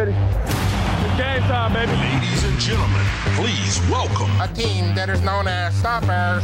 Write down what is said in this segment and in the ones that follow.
ready. It's game time, baby. Ladies and gentlemen, please welcome a team that is known as Stoppers.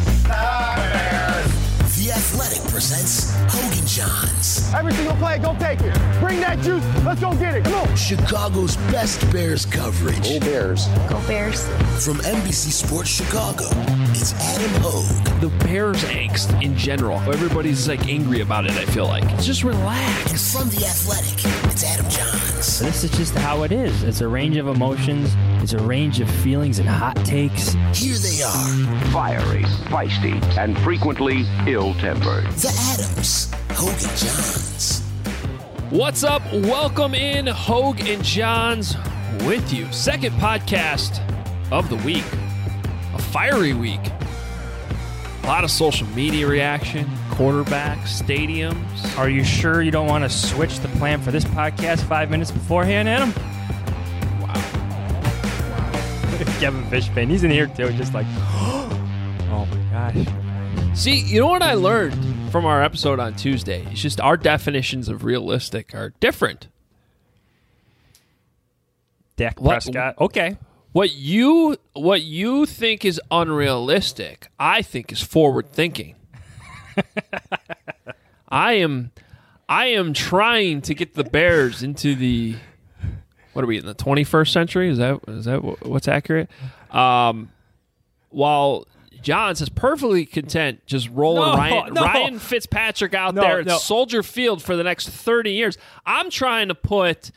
The Athletic presents Hogan Johns. Every single play, go take it. Bring that juice. Let's go get it. Come on. Chicago's best Bears coverage. Go Bears. Go Bears. From NBC Sports Chicago, it's Adam Hogue. The Bears angst in general. Everybody's like angry about it, I feel like. Just relax. And from The Athletic, it's Adam Johns. This is just how it is. It's a range of emotions. It's a range of feelings and hot takes. Here they are. Fiery, feisty, and frequently ill-tempered. The Adams, Hogue and Johns. What's up? Welcome in, Hogue and Johns with you. Second podcast of the week. A fiery week. A lot of social media reaction, quarterbacks, stadiums. Are you sure you don't want to switch the plan for this podcast 5 minutes beforehand, Adam? Wow. Kevin Fishbane, he's in here too, just like, oh my gosh. See, you know what I learned from our episode on Tuesday? It's just our definitions of realistic are different. Dak Prescott. Okay. What you think is unrealistic, I think is forward thinking. I am trying to get the Bears into the, what are we in the 21st century? Is that what's accurate? While Johns is perfectly content just rolling Ryan Fitzpatrick out there at Soldier Field for the next 30 years. I'm trying to put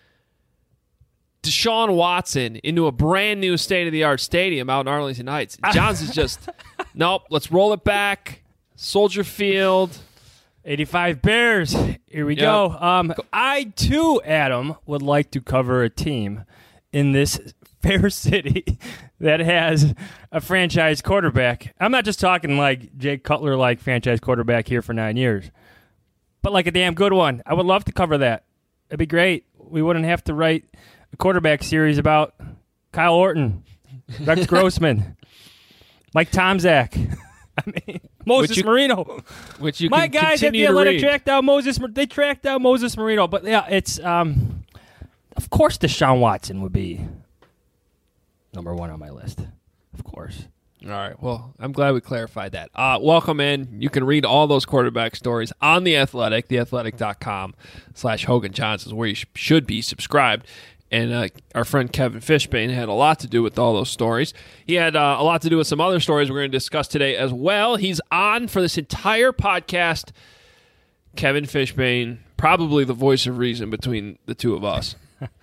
Deshaun Watson into a brand new state-of-the-art stadium out in Arlington Heights. Johns is just, nope, let's roll it back. Soldier Field. 85 Bears. Here we go. I, too, Adam, would like to cover a team in this fair city that has a franchise quarterback. I'm not just talking like Jake Cutler, like franchise quarterback here for 9 years, but like a damn good one. I would love to cover that. It'd be great. We wouldn't have to write a quarterback series about Kyle Orton, Rex Grossman, Mike Tomczak. I mean, Moses Marino. Which you My can guys at the Athletic tracked down Moses. They tracked down Moses Marino. But yeah, it's of course Deshaun Watson would be number one on my list. Of course. All right. Well, I'm glad we clarified that. Welcome in. You can read all those quarterback stories on The Athletic. TheAthletic.com/Hogan Johns is where you should be subscribed. And our friend Kevin Fishbane had a lot to do with all those stories. He had a lot to do with some other stories we're going to discuss today as well. He's on for this entire podcast. Kevin Fishbane, probably the voice of reason between the two of us.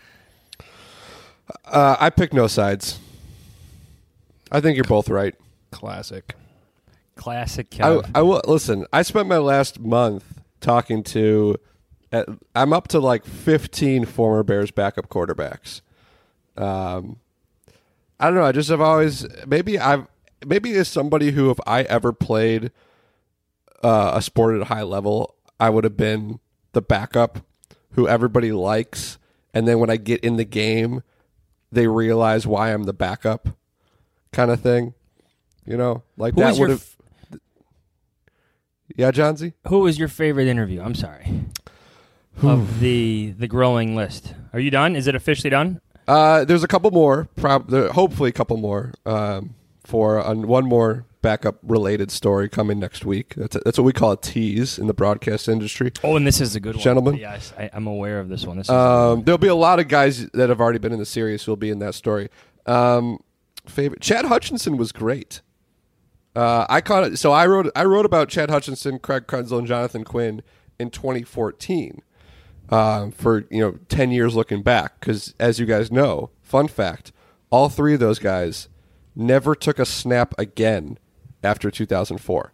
I pick no sides. I think you're both right. Classic Kevin. I will listen. I spent my last month talking to. I'm up to like 15 former Bears backup quarterbacks. I don't know. I just have always maybe as somebody who, if I ever played a sport at a high level, I would have been the backup who everybody likes, and then when I get in the game, they realize why I'm the backup, kind of thing. You know, like that would have. Yeah, Johnsy? Who was your favorite interview? I'm sorry. Of the growing list. Are you done? Is it officially done? There's a couple more, hopefully a couple more, for one more backup related story coming next week. That's what we call a tease in the broadcast industry. Oh, and this is a good one. Gentlemen. Yes, I'm aware of this one. There'll be a lot of guys that have already been in the series who will be in that story. Favorite Chad Hutchinson was great. I caught it. So I wrote about Chad Hutchinson, Craig Krenzel, and Jonathan Quinn in 2014. For 10 years looking back, because as you guys know, fun fact, all three of those guys never took a snap again after 2004.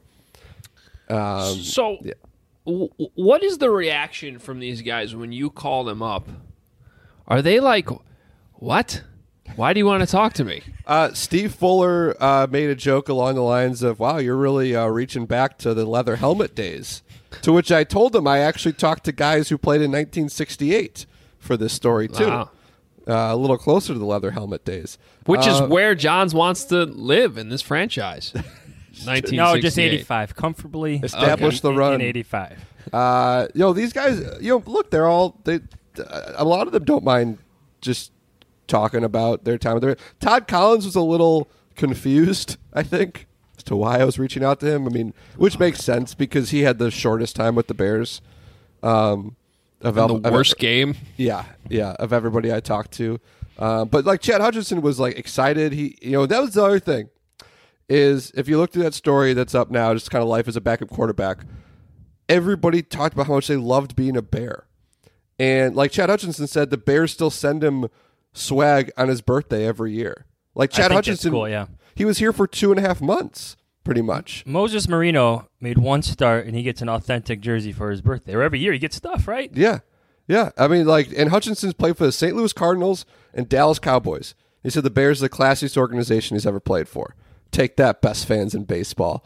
What is the reaction from these guys when you call them up? Are they like, what? Why do you want to talk to me? Steve Fuller made a joke along the lines of, wow, you're really reaching back to the leather helmet days. To which I told him I actually talked to guys who played in 1968 for this story, too. Wow. A little closer to the leather helmet days. Which is where Johns wants to live in this franchise. 1968. No, just 85. Comfortably establish the run. In 85. These guys, look, a lot of them don't mind just talking about their time with the Bears. Todd Collins was a little confused, I think, as to why I was reaching out to him. I mean, which makes sense because he had the shortest time with the Bears. The worst game. Yeah, of everybody I talked to. But like Chad Hutchinson was like excited. That was the other thing is if you looked at that story that's up now, just kind of life as a backup quarterback, everybody talked about how much they loved being a Bear. And like Chad Hutchinson said, the Bears still send him swag on his birthday every year. Like Chad Hutchinson, cool, yeah. He was here for 2.5 months, pretty much. Moses Marino made one start, and he gets an authentic jersey for his birthday. Or every year he gets stuff, right? Yeah. I mean, and Hutchinson's played for the St. Louis Cardinals and Dallas Cowboys. He said the Bears are the classiest organization he's ever played for. Take that, best fans in baseball.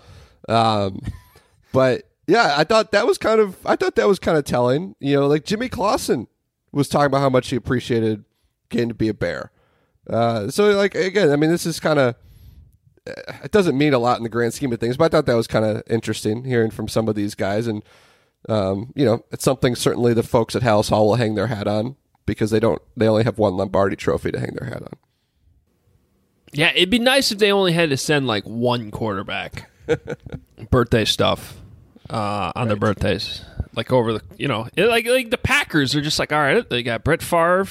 But yeah, I thought that was kind of telling. Like Jimmy Clausen was talking about how much he appreciated getting to be a Bear. So like again, I mean, this is kind of. It doesn't mean a lot in the grand scheme of things, but I thought that was kind of interesting hearing from some of these guys. And, it's something certainly the folks at Halas Hall will hang their hat on because they only have one Lombardi trophy to hang their hat on. Yeah, it'd be nice if they only had to send like one quarterback birthday stuff on their birthdays. Like over the, like the Packers are just like, all right, they got Brett Favre.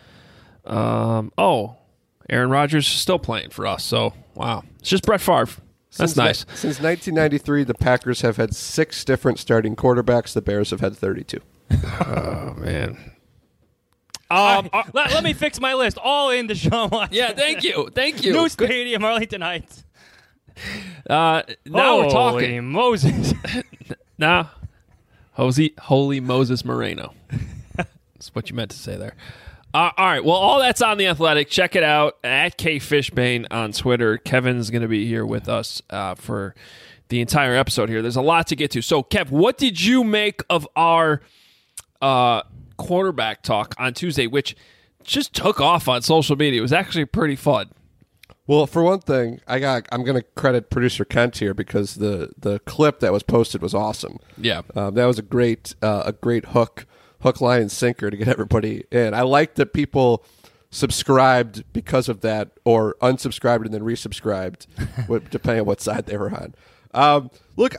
Aaron Rodgers is still playing for us. So, wow. It's just Brett Favre. That's nice. Since 1993, the Packers have had 6 different starting quarterbacks. The Bears have had 32. Oh, man. Let me fix my list. All in Deshaun Watson. Yeah, thank you. New stadium, Arlington Heights. Now we're talking. Holy Moses. Nah. Holy Moses Moreno. That's what you meant to say there. All right. Well, all that's on The Athletic. Check it out at K Fishbane on Twitter. Kevin's going to be here with us for the entire episode here. There's a lot to get to. So, Kev, what did you make of our quarterback talk on Tuesday, which just took off on social media? It was actually pretty fun. Well, for one thing, I'm going to credit producer Kent here because the clip that was posted was awesome. Yeah, that was a great hook, line, and sinker to get everybody in. I like that people subscribed because of that, or unsubscribed and then resubscribed, depending on what side they were on. Look,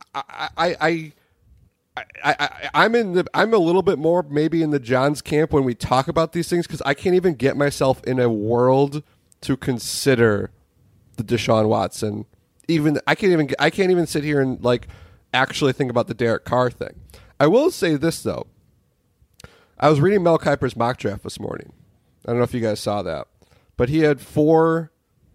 I'm a little bit more maybe in the John's camp when we talk about these things because I can't even get myself in a world to consider the Deshaun Watson. I can't even sit here and like actually think about the Derek Carr thing. I will say this though. I was reading Mel Kiper's mock draft this morning. I don't know if you guys saw that, but he had 3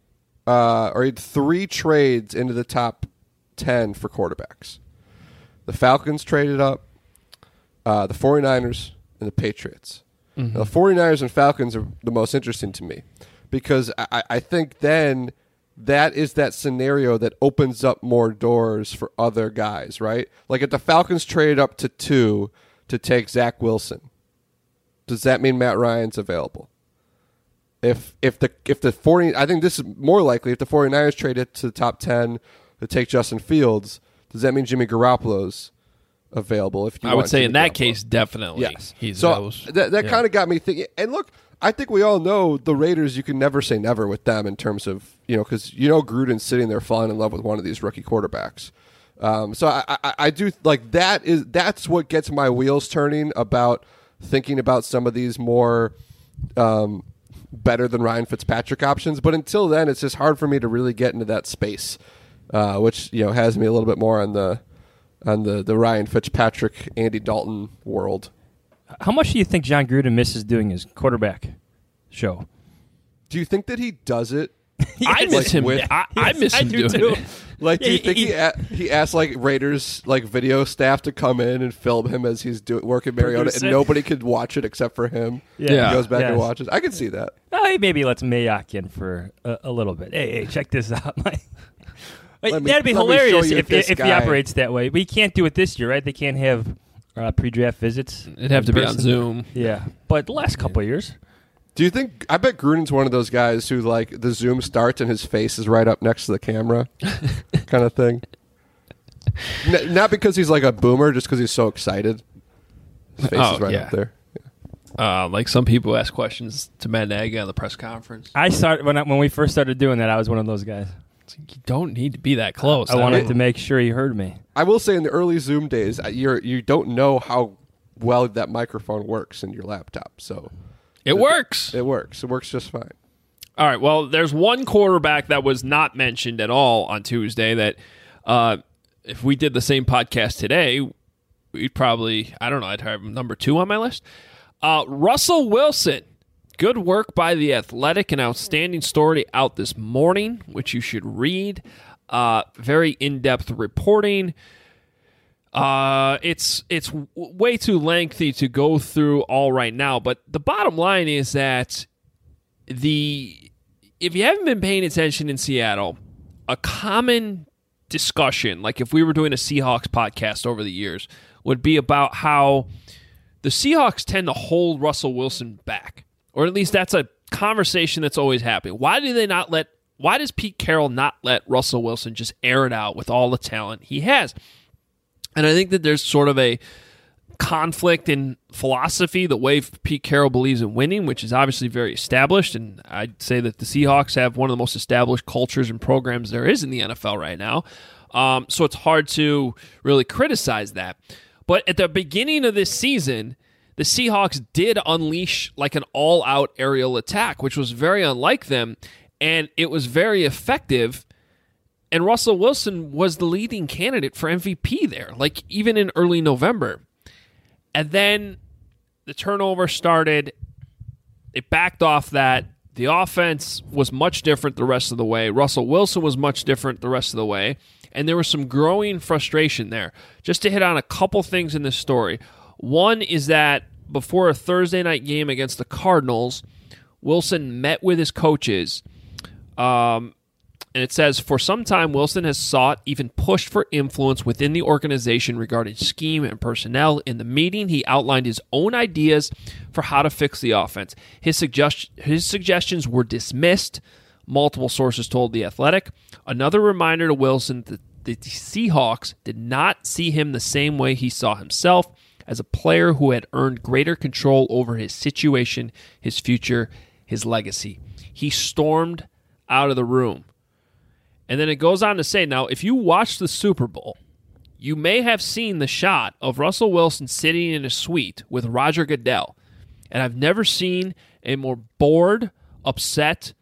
trades into the top 10 for quarterbacks. The Falcons traded up, the 49ers, and the Patriots. Mm-hmm. Now, the 49ers and Falcons are the most interesting to me because I think then that is that scenario that opens up more doors for other guys, right? Like if the Falcons traded up to 2 to take Zach Wilson, does that mean Matt Ryan's available? If the 40, I think this is more likely if the 49ers traded to the top 10 to take Justin Fields, does that mean Jimmy Garoppolo's available? I would say in that case, definitely. Yes. So that kind of got me thinking. And look, I think we all know the Raiders, you can never say never with them in terms of, because Gruden's sitting there falling in love with one of these rookie quarterbacks. So I do like that's what gets my wheels turning about thinking about some of these more better than Ryan Fitzpatrick options. But until then, it's just hard for me to really get into that space, which has me a little bit more on the Ryan Fitzpatrick, Andy Dalton world. How much do you think John Gruden misses doing his quarterback show? Do you think that he does it? I miss him. I miss him doing too. it. Like, do you think he asked like Raiders like video staff to come in and film him as he's working Mariota, and nobody could watch it except for him? Yeah, he goes back and watches. I can see that. He maybe lets Mayock in for a little bit. Hey, check this out. That'd be hilarious if he operates that way. But he can't do it this year, right? They can't have pre-draft visits. It'd have to be on Zoom. Yeah, but the last couple of years. Do you think? I bet Gruden's one of those guys who like the Zoom starts and his face is right up next to the camera, kind of thing. Not because he's like a boomer, just because he's so excited. His face is right up there. Yeah. Like some people ask questions to Matt Nagy on the press conference. I started when we first started doing that. I was one of those guys. You don't need to be that close. I wanted to make sure he heard me. I will say in the early Zoom days, you don't know how well that microphone works in your laptop. So it works. It works. It works just fine. All right. Well, there's one quarterback that was not mentioned at all on Tuesday that if we did the same podcast today, we'd probably, I don't know, I'd have number 2 on my list. Russell Wilson. Good work by The Athletic, an outstanding story out this morning, which you should read. Very in-depth reporting. It's way too lengthy to go through all right now, but the bottom line is that if you haven't been paying attention in Seattle, a common discussion, like if we were doing a Seahawks podcast over the years, would be about how the Seahawks tend to hold Russell Wilson back. Or at least that's a conversation that's always happening. Why does Pete Carroll not let Russell Wilson just air it out with all the talent he has? And I think that there's sort of a conflict in philosophy, the way Pete Carroll believes in winning, which is obviously very established. And I'd say that the Seahawks have one of the most established cultures and programs there is in the NFL right now. So it's hard to really criticize that. But at the beginning of this season, the Seahawks did unleash like an all-out aerial attack, which was very unlike them, and it was very effective. And Russell Wilson was the leading candidate for MVP there, like even in early November. And then the turnover started. They backed off that. The offense was much different the rest of the way. Russell Wilson was much different the rest of the way. And there was some growing frustration there. Just to hit on a couple things in this story. One is that before a Thursday night game against the Cardinals, Wilson met with his coaches. And it says, for some time, Wilson has sought, even pushed for influence within the organization regarding scheme and personnel. In the meeting, he outlined his own ideas for how to fix the offense. His suggestions were dismissed, multiple sources told The Athletic. Another reminder to Wilson that the Seahawks did not see him the same way he saw himself, as a player who had earned greater control over his situation, his future, his legacy. He stormed out of the room. And then it goes on to say, now, if you watch the Super Bowl, you may have seen the shot of Russell Wilson sitting in a suite with Roger Goodell. And I've never seen a more bored, upset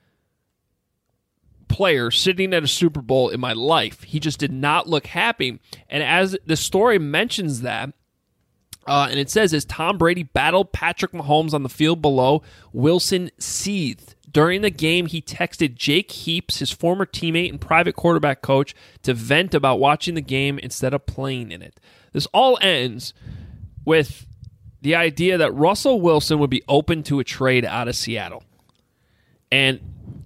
player sitting at a Super Bowl in my life. He just did not look happy. And as the story mentions that, and it says, as Tom Brady battled Patrick Mahomes on the field below, Wilson seethed. During the game, he texted Jake Heaps, his former teammate and private quarterback coach, to vent about watching the game instead of playing in it. This all ends with the idea that Russell Wilson would be open to a trade out of Seattle. And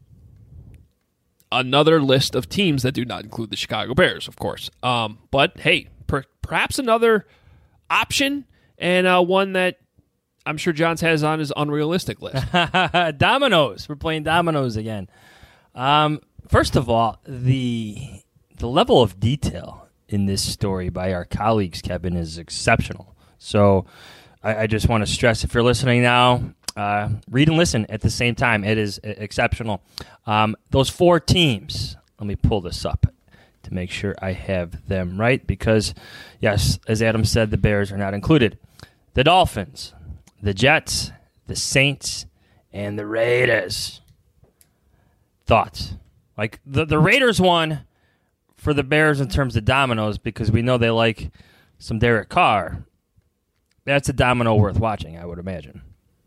another list of teams that do not include the Chicago Bears, of course. But, hey, perhaps another option, and one that I'm sure Johns has on his unrealistic list. Dominoes. We're playing dominoes again. First of all, the level of detail in this story by our colleagues, Kevin, is exceptional. So I just want to stress, if you're listening now, read and listen at the same time. It is exceptional. Those 4 teams, let me pull this up to make sure I have them right, because, yes, as Adam said, the Bears are not included. The Dolphins, the Jets, the Saints, and the Raiders. Thoughts? Like, the Raiders won for the Bears in terms of dominoes because we know they like some Derek Carr. That's a domino worth watching, I would imagine.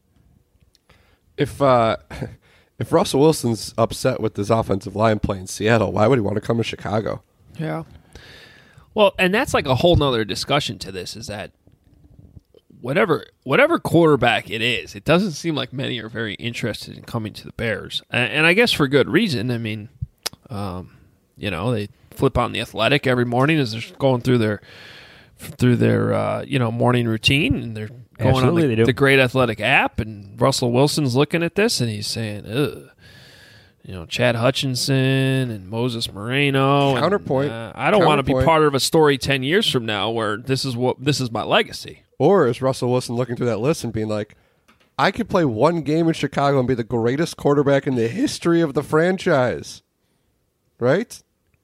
If Russell Wilson's upset with his offensive line playing Seattle, why would he want to come to Chicago? Yeah. Well, and that's like a whole nother discussion to this, is that whatever quarterback it is, it doesn't seem like many are very interested in coming to the Bears. And I guess for good reason. I mean, they flip on The Athletic every morning as they're going through their morning routine, and they're going on the Great Athletic app, and Russell Wilson's looking at this, and he's saying, ugh. Chad Hutchinson and Moses Moreno. Counterpoint. I don't want to be part of a story 10 years from now where this is my legacy. Or is Russell Wilson looking through that list and being like, I could play one game in Chicago and be the greatest quarterback in the history of the franchise. Right?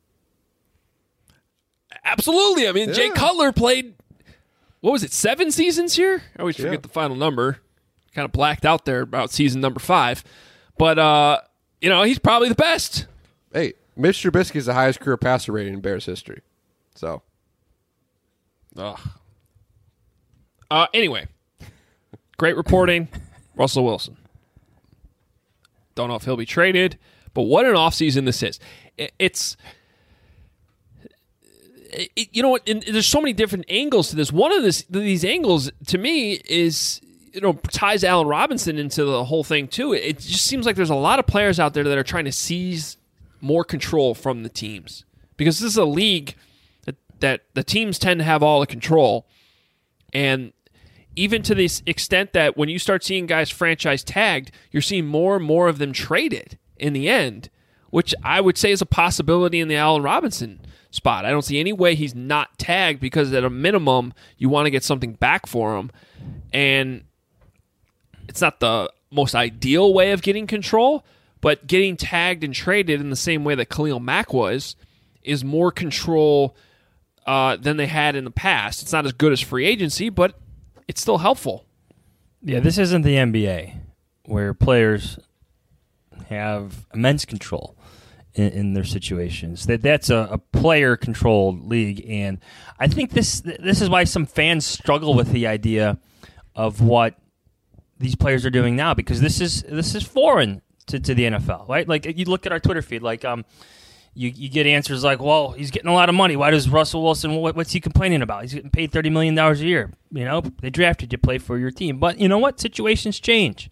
Absolutely. I mean, Jay Cutler played, what was it, 7 seasons here? I always forget the final number. Kind of blacked out there about season number 5. But, he's probably the best. Hey, Mitch Trubisky is the highest career passer rating in Bears history. So. Anyway, great reporting. Russell Wilson. Don't know if he'll be traded, but what an offseason this is. There's so many different angles to this. One of these angles, to me, is, ties Allen Robinson into the whole thing, too. It just seems like there's a lot of players out there that are trying to seize more control from the teams. Because this is a league that the teams tend to have all the control. And even to this extent that when you start seeing guys franchise tagged, you're seeing more and more of them traded in the end, which I would say is a possibility in the Allen Robinson spot. I don't see any way he's not tagged because at a minimum, you want to get something back for him. And it's not the most ideal way of getting control, but getting tagged and traded in the same way that Khalil Mack was is more control than they had in the past. It's not as good as free agency, but it's still helpful. Yeah, this isn't the NBA where players have immense control in their situations. That's a player-controlled league, and I think this is why some fans struggle with the idea of what these players are doing now, because this is foreign to the NFL, right? Like, you look at our Twitter feed, like you get answers like, well, he's getting a lot of money. Why does Russell Wilson, what's he complaining about? He's getting paid $30 million a year. They drafted you to play for your team. But you know what? Situations change.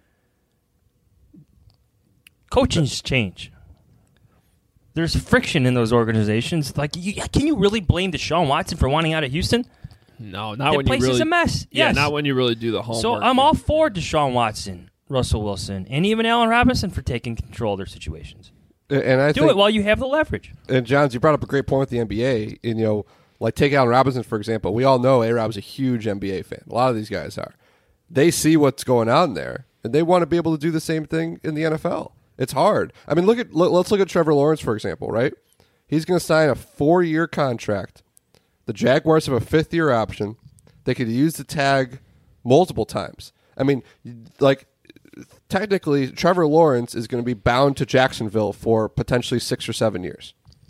Coachings change. There's friction in those organizations. Like, can you really blame Deshaun Watson for wanting out of Houston? No, not that when you really. That place is a mess. Yeah, yes. not when you really do the homework. So I'm all for Deshaun Watson, Russell Wilson, and even Allen Robinson for taking control of their situations. And I do it while you have the leverage. And Johns, you brought up a great point with the NBA. And, like take Allen Robinson, for example. We all know A-Rob's a huge NBA fan. A lot of these guys are. They see what's going on there, and they want to be able to do the same thing in the NFL. It's hard. I mean, let's look at Trevor Lawrence, for example, right? He's going to sign a 4-year contract. The Jaguars have a 5th-year option. They could use the tag multiple times. I mean, like, technically, Trevor Lawrence is going to be bound to Jacksonville for potentially 6 or 7 years.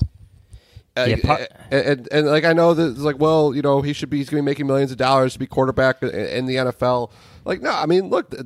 And like, I know that it's like, well, he's going to be making millions of dollars to be quarterback in the NFL. Like, no, I mean, look,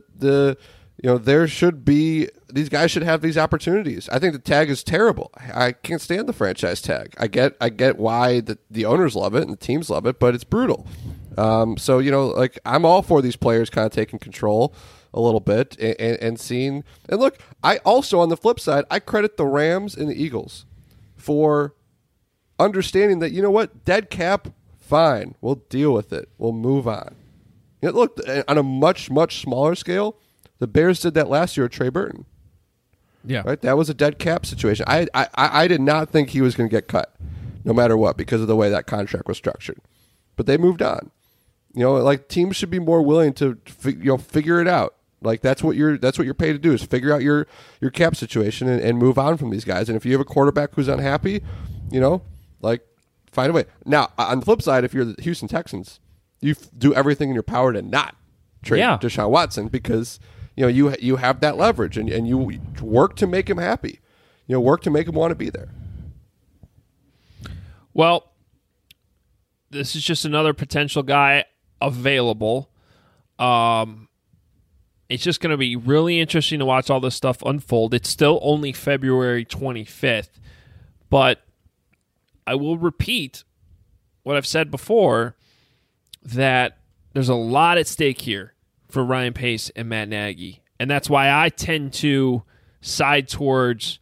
there should be, these guys should have these opportunities. I think the tag is terrible. I can't stand the franchise tag. I get why the owners love it and the teams love it, but it's brutal. So, like, I'm all for these players kind of taking control a little bit and seeing. And look, I also, on the flip side, I credit the Rams and the Eagles for understanding that, dead cap, fine. We'll deal with it. We'll move on. Look, on a much, much smaller scale, the Bears did that last year with Trey Burton. Yeah. Right? That was a dead cap situation. I did not think he was going to get cut, no matter what, because of the way that contract was structured. But they moved on. Like, teams should be more willing to figure it out. Like, that's what you're paid to do, is figure out your cap situation and move on from these guys. And if you have a quarterback who's unhappy, like, find a way. Now, on the flip side, if you're the Houston Texans, you do everything in your power to not trade Deshaun Watson, because you have that leverage and you work to make him happy. Work to make him want to be there. Well, this is just another potential guy available. It's just going to be really interesting to watch all this stuff unfold. It's still only February 25th, but I will repeat what I've said before, that there's a lot at stake here for Ryan Pace and Matt Nagy, and that's why I tend to side towards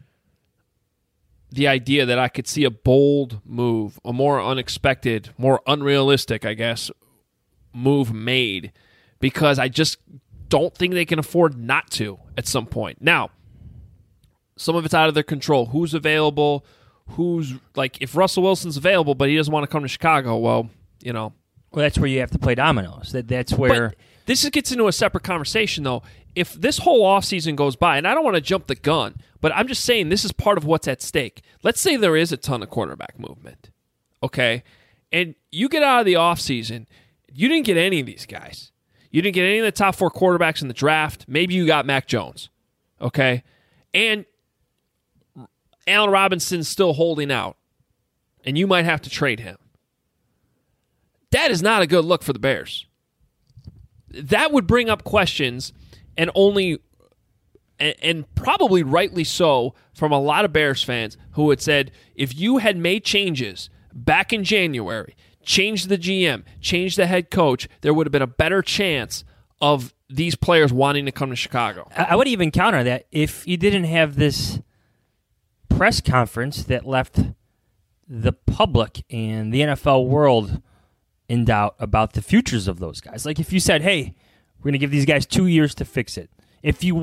the idea that I could see a bold move, a more unexpected, more unrealistic, I guess, move made, because I just don't think they can afford not to at some point. Now, some of it's out of their control. Who's available? Who's, like, if Russell Wilson's available but he doesn't want to come to Chicago, well, Well, that's where you have to play dominoes. That's where this gets into a separate conversation, though. If this whole offseason goes by, and I don't want to jump the gun, but I'm just saying this is part of what's at stake. Let's say there is a ton of quarterback movement, okay? And you get out of the offseason, you didn't get any of these guys. You didn't get any of the top 4 quarterbacks in the draft. Maybe you got Mac Jones, okay? And Allen Robinson's still holding out, and you might have to trade him. That is not a good look for the Bears. That would bring up questions, and probably rightly so, from a lot of Bears fans who had said, if you had made changes back in January, changed the GM, changed the head coach, there would have been a better chance of these players wanting to come to Chicago. I would even counter that if you didn't have this press conference that left the public and the NFL world in doubt about the futures of those guys. Like if you said, hey, we're going to give these guys 2 years to fix it. If you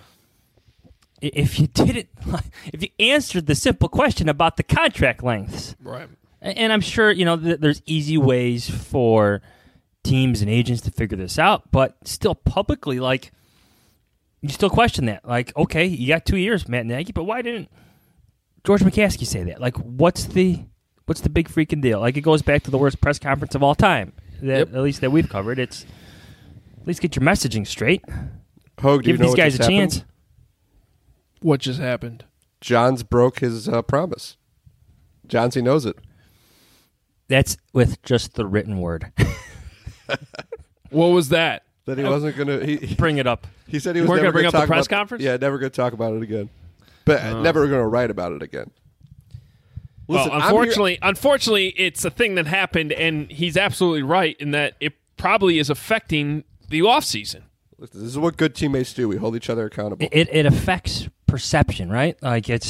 answered the simple question about the contract lengths. Right. And I'm sure, there's easy ways for teams and agents to figure this out, but still publicly, like, you still question that. Like, okay, you got 2 years, Matt Nagy, but why didn't George McCaskey say that? Like, what's the big freaking deal? Like, it goes back to the worst press conference of all time, at least that we've covered. It's, at least get your messaging straight. Hogue, do you Give know these what guys just a chance. happened? What just happened? Johns broke his promise. Johnsy knows it. That's with just the written word. What was that? That he wasn't going to... Bring it up. He said he was weren't never going to bring talk up the press about, conference? Yeah, never going to talk about it again. But never going to write about it again. Listen, well, unfortunately, it's a thing that happened, and he's absolutely right in that it probably is affecting the offseason. Listen, this is what good teammates do. We hold each other accountable. It affects perception, right? Like it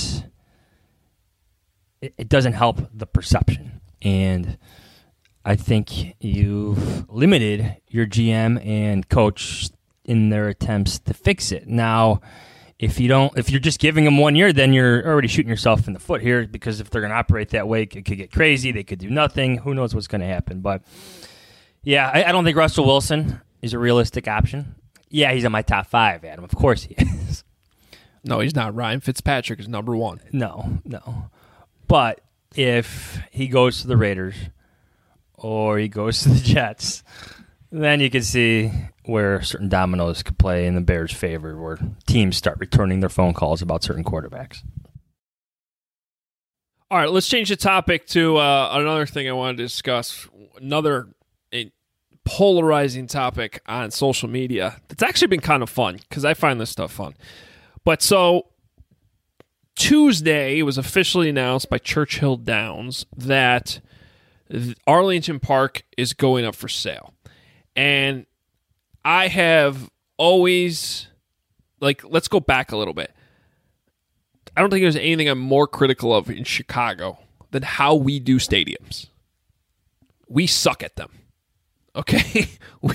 doesn't help the perception. And I think you've limited your GM and coach in their attempts to fix it. Now, if you're just giving them 1 year, then you're already shooting yourself in the foot here, because if they're going to operate that way, it could get crazy. They could do nothing. Who knows what's going to happen? But yeah, I don't think Russell Wilson is a realistic option. Yeah, he's in my top 5, Adam. Of course he is. No, he's not. Ryan Fitzpatrick is number 1. No. But if he goes to the Raiders or he goes to the Jets, then you can see where certain dominoes could play in the Bears' favor, where teams start returning their phone calls about certain quarterbacks. All right, let's change the topic to another thing I wanted to discuss. Another polarizing topic on social media that's actually been kind of fun, because I find this stuff fun. But so Tuesday, it was officially announced by Churchill Downs that Arlington Park is going up for sale. And I have always, let's go back a little bit. I don't think there's anything I'm more critical of in Chicago than how we do stadiums. We suck at them. Okay?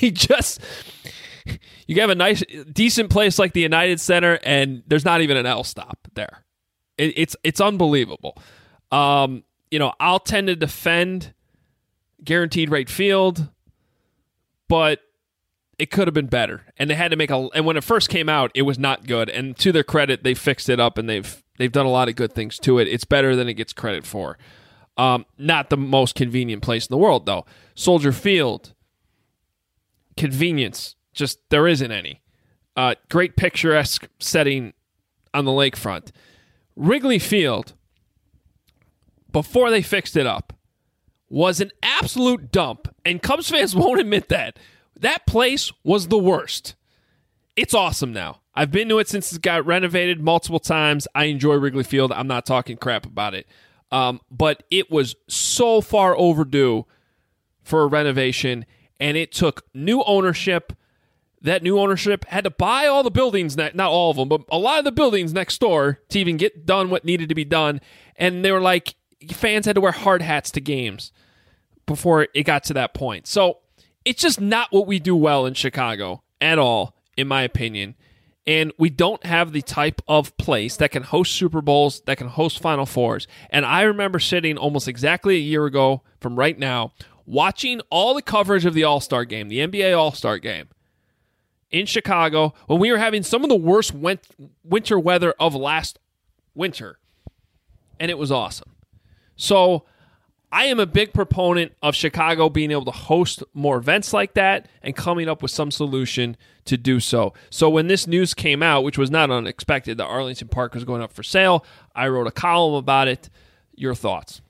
You have a nice, decent place like the United Center, and there's not even an L stop there. It's unbelievable. I'll tend to defend guaranteed rate field, but it could have been better. And they had to and when it first came out, it was not good. And to their credit, they fixed it up, and they've done a lot of good things to it. It's better than it gets credit for. Not the most convenient place in the world, though. Soldier Field, convenience, just there isn't any. Great picturesque setting on the lakefront. Wrigley Field, before they fixed it up, was an absolute dump, and Cubs fans won't admit that. That place was the worst. It's awesome now. I've been to it since it got renovated multiple times. I enjoy Wrigley Field. I'm not talking crap about it. But it was so far overdue for a renovation, and it took new ownership. That new ownership had to buy all the buildings, not all of them, but a lot of the buildings next door to even get done what needed to be done. And they were like, fans had to wear hard hats to games before it got to that point. So it's just not what we do well in Chicago at all, in my opinion. And we don't have the type of place that can host Super Bowls, that can host Final Fours. And I remember sitting almost exactly a year ago from right now, watching all the coverage of the All-Star game, the NBA All-Star game, in Chicago when we were having some of the worst winter weather of last winter, and it was awesome. So I am a big proponent of Chicago being able to host more events like that and coming up with some solution to do so. So when this news came out, which was not unexpected, that Arlington Park was going up for sale, I wrote a column about it. Your thoughts?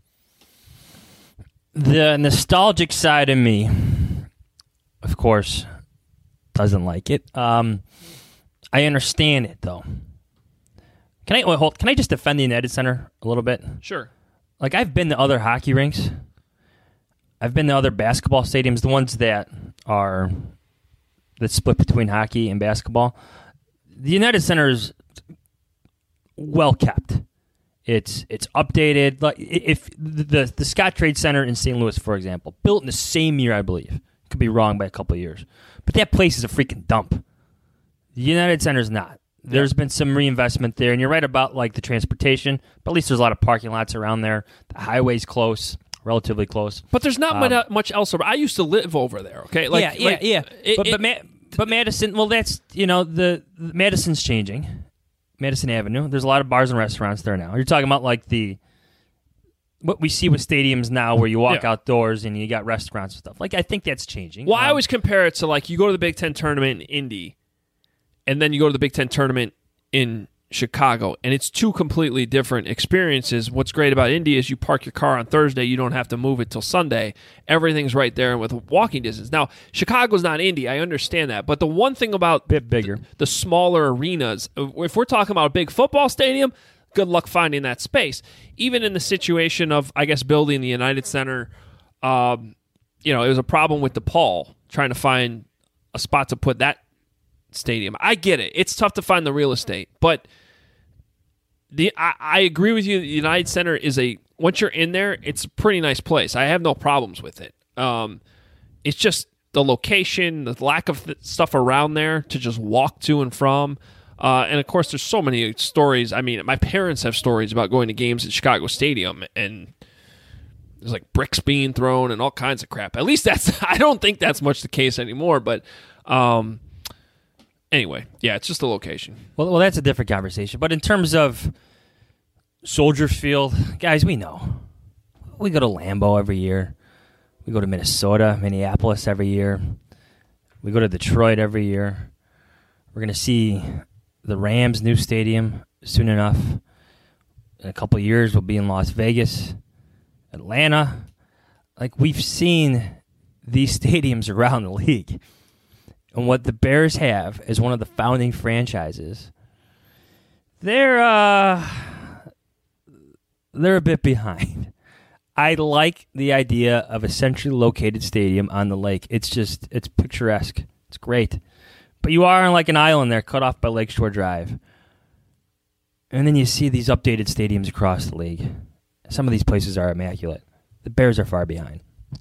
The nostalgic side of me, of course, doesn't like it. I understand it, though. Can I just defend the United Center a little bit? Sure. Like, I've been to other hockey rinks. I've been to other basketball stadiums, the ones that split between hockey and basketball. The United Center is well kept. It's updated. Like, if the Scott Trade Center in St. Louis, for example, built in the same year, I believe. Could be wrong by a couple of years. But that place is a freaking dump. The United Center is not. There's been some reinvestment there, and you're right about like the transportation, but at least there's a lot of parking lots around there. The highway's close, relatively close. But there's not much else. I used to live over there, okay? But Madison, well, that's, the Madison's changing. Madison Avenue. There's a lot of bars and restaurants there now. You're talking about like what we see with stadiums now where you walk outdoors and you got restaurants and stuff. Like, I think that's changing. Well, I always compare it to like you go to the Big Ten tournament in Indy, and then you go to the Big Ten tournament in Chicago, and it's two completely different experiences. What's great about Indy is you park your car on Thursday, you don't have to move it till Sunday. Everything's right there and with walking distance. Now, Chicago's not Indy, I understand that, but the one thing about bit bigger, the smaller arenas, if we're talking about a big football stadium, good luck finding that space. Even in the situation of, I guess, building the United Center, it was a problem with DePaul trying to find a spot to put that stadium. I get it. It's tough to find the real estate, but I agree with you. The United Center is once you're in there, it's a pretty nice place. I have no problems with it. It's just the location, the lack of stuff around there to just walk to and from. And of course, there's so many stories. I mean, my parents have stories about going to games at Chicago Stadium, and there's like bricks being thrown and all kinds of crap. At least I don't think that's much the case anymore, but anyway, yeah, it's just the location. Well, that's a different conversation. But in terms of Soldier Field, guys, we know. We go to Lambeau every year. We go to Minneapolis every year. We go to Detroit every year. We're going to see the Rams' new stadium soon enough. In a couple of years, we'll be in Las Vegas, Atlanta. Like, we've seen these stadiums around the league. And what the Bears have as one of the founding franchises, they're a bit behind. I like the idea of a centrally located stadium on the lake. It's picturesque. It's great. But you are on like an island there, cut off by Lakeshore Drive. And then you see these updated stadiums across the league. Some of these places are immaculate. The Bears are far behind.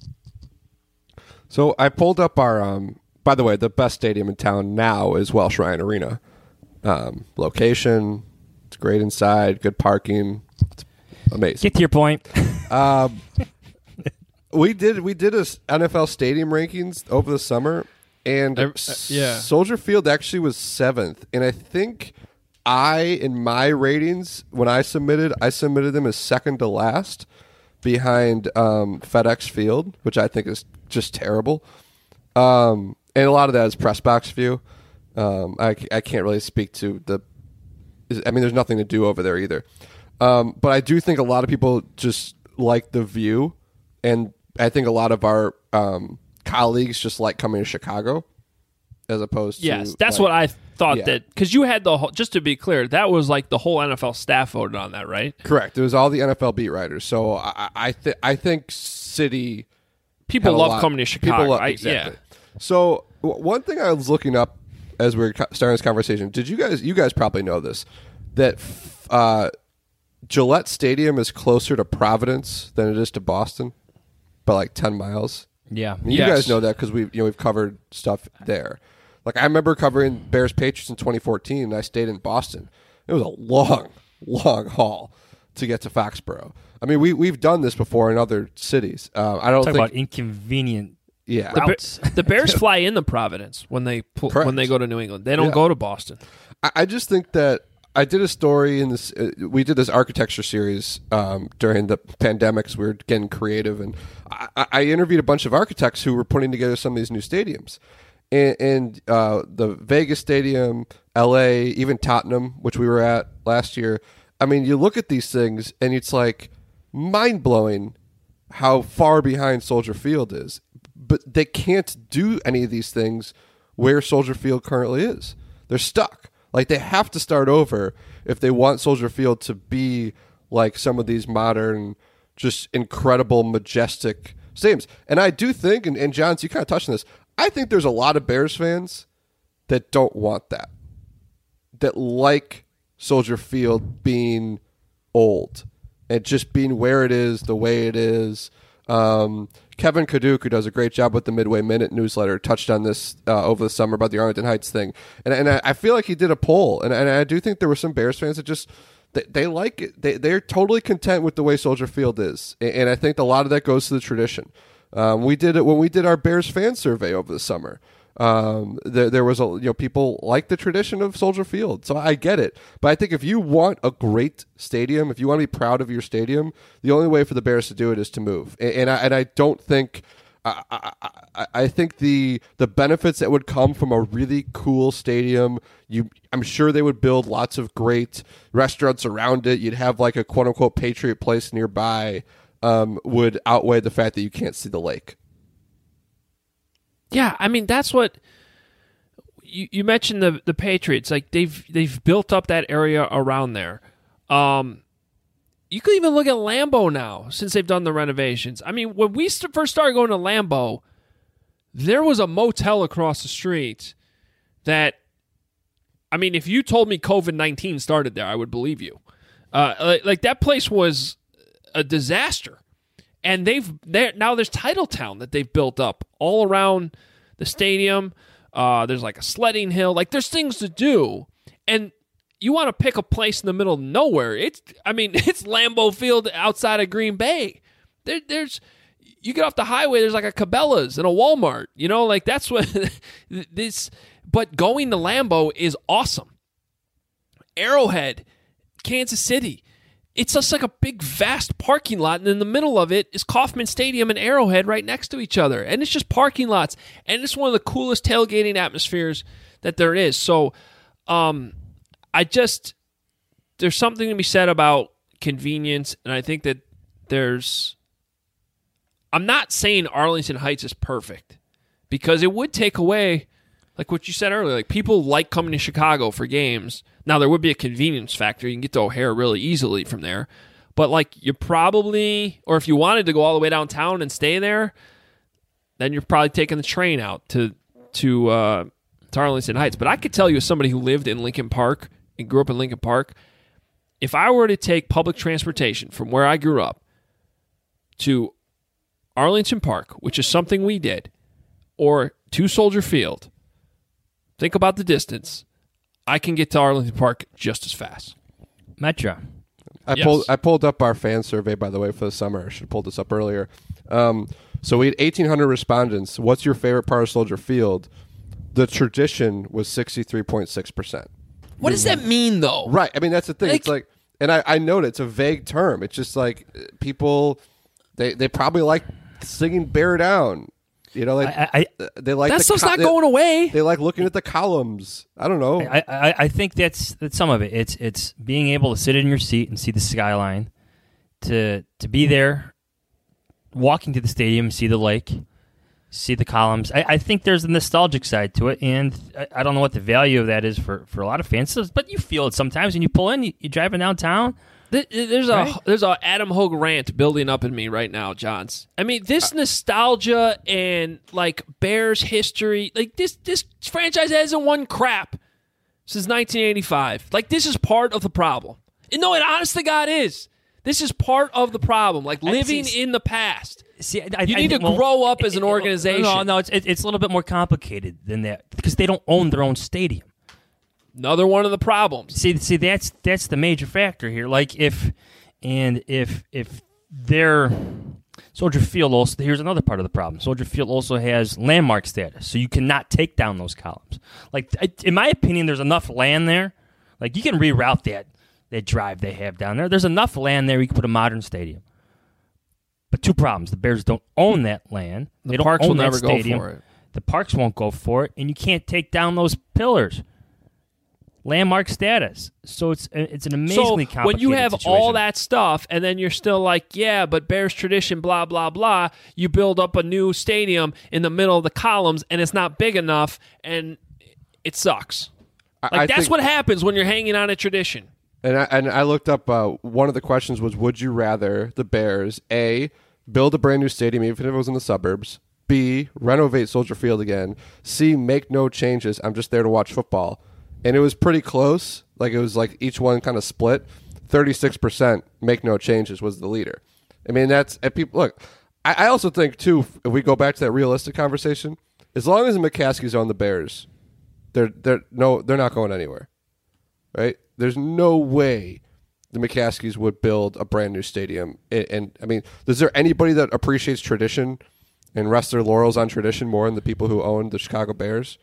So I pulled up our... By the way, the best stadium in town now is Welsh Ryan Arena. Location, it's great inside, good parking. It's amazing. Get to your point. We did a NFL stadium rankings over the summer, and Soldier Field actually was 7th. And I think in my ratings, when I submitted them as second to last behind FedEx Field, which I think is just terrible. And a lot of that is press box view. I can't really speak to there's nothing to do over there either. But I do think a lot of people just like the view, and I think a lot of our colleagues just like coming to Chicago as opposed to... Yes, that's what I thought that... Because you had just to be clear, that was like the whole NFL staff voted on that, right? Correct. It was all the NFL beat writers. So I think city... People love coming to Chicago. Exactly. Yeah. So one thing I was looking up as we were starting this conversation, you guys probably know this, that Gillette Stadium is closer to Providence than it is to Boston by like 10 miles. Yeah. And you guys know that because we've covered stuff there. Like, I remember covering Bears Patriots in 2014, and I stayed in Boston. It was a long, long haul to get to Foxborough. I mean, we've done this before in other cities. I don't think about inconvenient Yeah. The Bears fly into Providence when they go to New England. They don't go to Boston. I just think that I did a story in this. We did this architecture series during the pandemics. We were getting creative, and I interviewed a bunch of architects who were putting together some of these new stadiums. And the Vegas Stadium, LA, even Tottenham, which we were at last year. I mean, you look at these things, and it's like mind-blowing how far behind Soldier Field is. But they can't do any of these things where Soldier Field currently is. They're stuck. Like, they have to start over if they want Soldier Field to be like some of these modern, just incredible, majestic stadiums. And I do think, and Johns, you kind of touched on this, I think there's a lot of Bears fans that don't want that like Soldier Field being old and just being where it is, the way it is. Kevin Kaduk, who does a great job with the Midway Minute newsletter, touched on this over the summer about the Arlington Heights thing. And I feel like he did a poll, and I do think there were some Bears fans that just they like it. They're totally content with the way Soldier Field is, and I think a lot of that goes to the tradition. We did it when we did our Bears fan survey over the summer. There was people like the tradition of Soldier Field, so I get it. But I think if you want a great stadium, if you want to be proud of your stadium, the only way for the Bears to do it is to move. And I don't think. I think the benefits that would come from a really cool stadium, I'm sure they would build lots of great restaurants around it. You'd have like a quote unquote Patriot place nearby. Would outweigh the fact that you can't see the lake. Yeah, I mean, that's what you mentioned the Patriots. Like they've built up that area around there. You could even look at Lambeau now since they've done the renovations. I mean, when we first started going to Lambeau, there was a motel across the street that, I mean, if you told me COVID-19 started there, I would believe you. Like that place was a disaster. And now there's Titletown that they've built up all around the stadium. There's like a sledding hill. Like there's things to do. And you want to pick a place in the middle of nowhere. It's Lambeau Field outside of Green Bay. There's you get off the highway, there's like a Cabela's and a Walmart. You know, like that's what this. But going to Lambeau is awesome. Arrowhead, Kansas City. It's just like a big, vast parking lot, and in the middle of it is Kauffman Stadium and Arrowhead right next to each other. And it's just parking lots. And it's one of the coolest tailgating atmospheres that there is. So there's something to be said about convenience, and I think that I'm not saying Arlington Heights is perfect, because it would take away, like what you said earlier, like people like coming to Chicago for games. Now, there would be a convenience factor. You can get to O'Hare really easily from there. But, like, you probably, or if you wanted to go all the way downtown and stay there, then you're probably taking the train out to Arlington Heights. But I could tell you, as somebody who lived in Lincoln Park and grew up in Lincoln Park, if I were to take public transportation from where I grew up to Arlington Park, which is something we did, or to Soldier Field, think about the distance. I can get to Arlington Park just as fast. Metro. I pulled up our fan survey, by the way, for the summer. I should have pulled this up earlier. So we had 1,800 respondents. What's your favorite part of Soldier Field? The tradition was 63.6%. What does that mean, though? Right. I mean, that's the thing. It's like, and I know it's a vague term. It's just like people, they probably like singing "Bear Down." You know, like they like that stuff's not going away. They like looking at the columns. I don't know. I think that's some of it. It's being able to sit in your seat and see the skyline, to be there, walking to the stadium, see the lake, see the columns. I think there's a nostalgic side to it, and I don't know what the value of that is for a lot of fans. But you feel it sometimes when you pull in, you're driving downtown. There's a Adam Hogue rant building up in me right now, Johns. I mean, this nostalgia and like Bears history, like this franchise hasn't won crap since 1985. Like, this is part of the problem. And no, it honest to God is. This is part of the problem. Like living in the past. See, you need to grow up as an organization. No, it's a little bit more complicated than that, because they don't own their own stadium. Another one of the problems. See, that's the major factor here. Like if they're Soldier Field also, here's another part of the problem. Soldier Field also has landmark status, so you cannot take down those columns. Like, in my opinion, there's enough land there. Like, you can reroute that drive they have down there. There's enough land there you can put a modern stadium. But two problems. The Bears don't own that land. They don't Parks own will that never stadium. go for it. The Parks won't go for it, and you can't take down those pillars. Landmark status. So it's an amazingly complicated when you have situation. all that stuff and then you're still like, yeah, but Bears tradition, blah, blah, blah, you build up a new stadium in the middle of the columns and it's not big enough and it sucks. Like, that's what happens when you're hanging on a tradition. And I looked up, one of the questions was, would you rather the Bears, A, build a brand new stadium even if it was in the suburbs, B, renovate Soldier Field again, C, make no changes, I'm just there to watch football. And it was pretty close. Like, it was like each one kind of split. 36% make no changes was the leader. I mean, that's – people look, I also think, too, if we go back to that realistic conversation, as long as the McCaskies own the Bears, they're not going anywhere, right? There's no way the McCaskies would build a brand new stadium. And I mean, is there anybody that appreciates tradition and rests their laurels on tradition more than the people who own the Chicago Bears?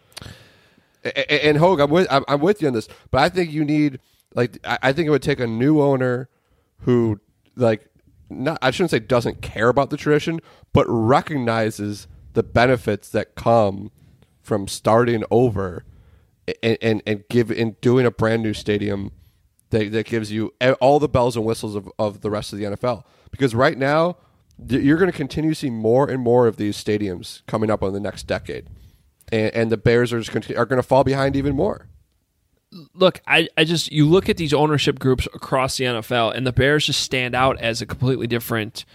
And Hogue, I'm with you on this, but I think you need, like, I think it would take a new owner who, like, I shouldn't say doesn't care about the tradition, but recognizes the benefits that come from starting over and doing a brand new stadium that gives you all the bells and whistles of the rest of the NFL. Because right now, you're going to continue to see more and more of these stadiums coming up in the next decade. And the Bears are going to fall behind even more. Look, you look at these ownership groups across the NFL, and the Bears just stand out as a completely different.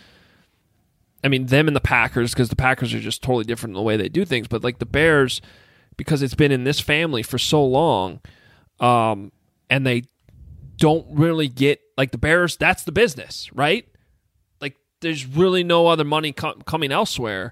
I mean, them and the Packers, because the Packers are just totally different in the way they do things. But like the Bears, because it's been in this family for so long, and they don't really get, like, the Bears. That's the business, right? Like, there's really no other money coming elsewhere.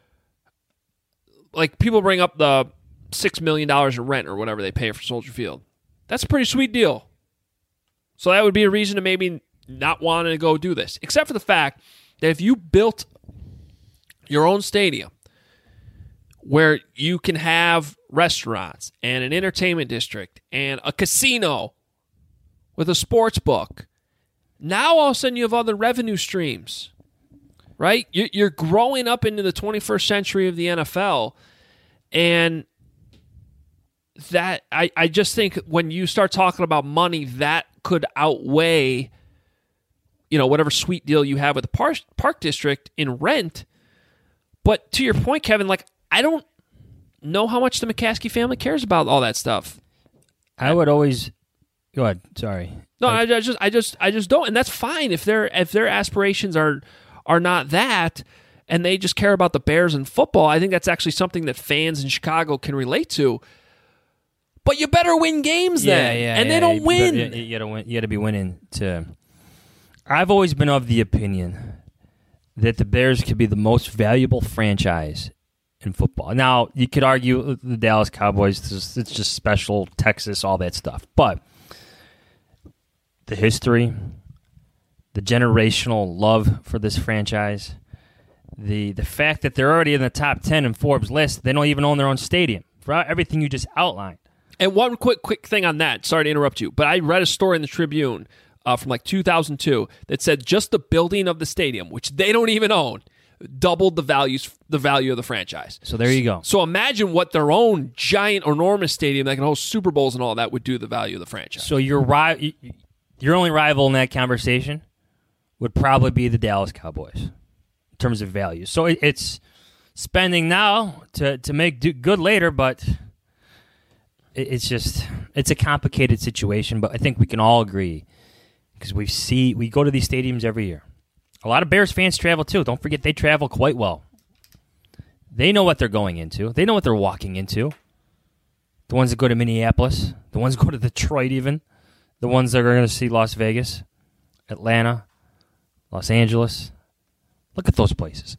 Like, people bring up the $6 million in rent or whatever they pay for Soldier Field. That's a pretty sweet deal. So that would be a reason to maybe not want to go do this. Except for the fact that if you built your own stadium where you can have restaurants and an entertainment district and a casino with a sports book, now all of a sudden you have other revenue streams. Right? You're growing up into the 21st century of the NFL, and that I just think when you start talking about money, that could outweigh, whatever sweet deal you have with the park district in rent. But to your point, Kevin, like, I don't know how much the McCaskey family cares about all that stuff. I would always go ahead. Sorry. No, I just don't, and that's fine if their aspirations are not that, and they just care about the Bears and football. I think that's actually something that fans in Chicago can relate to. But you better win games then, they don't win. You gotta win. You gotta be winning to. I've always been of the opinion that the Bears could be the most valuable franchise in football. Now, you could argue the Dallas Cowboys, it's just special, Texas, all that stuff. But the history, the generational love for this franchise, the fact that they're already in the top 10 in Forbes list, they don't even own their own stadium, for everything you just outlined. And one quick thing on that, sorry to interrupt you, but I read a story in the Tribune from like 2002 that said just the building of the stadium, which they don't even own, doubled the value of the franchise. So there you go. So imagine what their own giant, enormous stadium that can host Super Bowls and all that would do to the value of the franchise. So your only rival in that conversation would probably be the Dallas Cowboys in terms of value. So it's spending now to make good later, but it's a complicated situation. But I think we can all agree, because we go to these stadiums every year. A lot of Bears fans travel too. Don't forget, they travel quite well. They know what they're going into. They know what they're walking into. The ones that go to Minneapolis, the ones that go to Detroit even, the ones that are going to see Las Vegas, Atlanta, Los Angeles. Look at those places.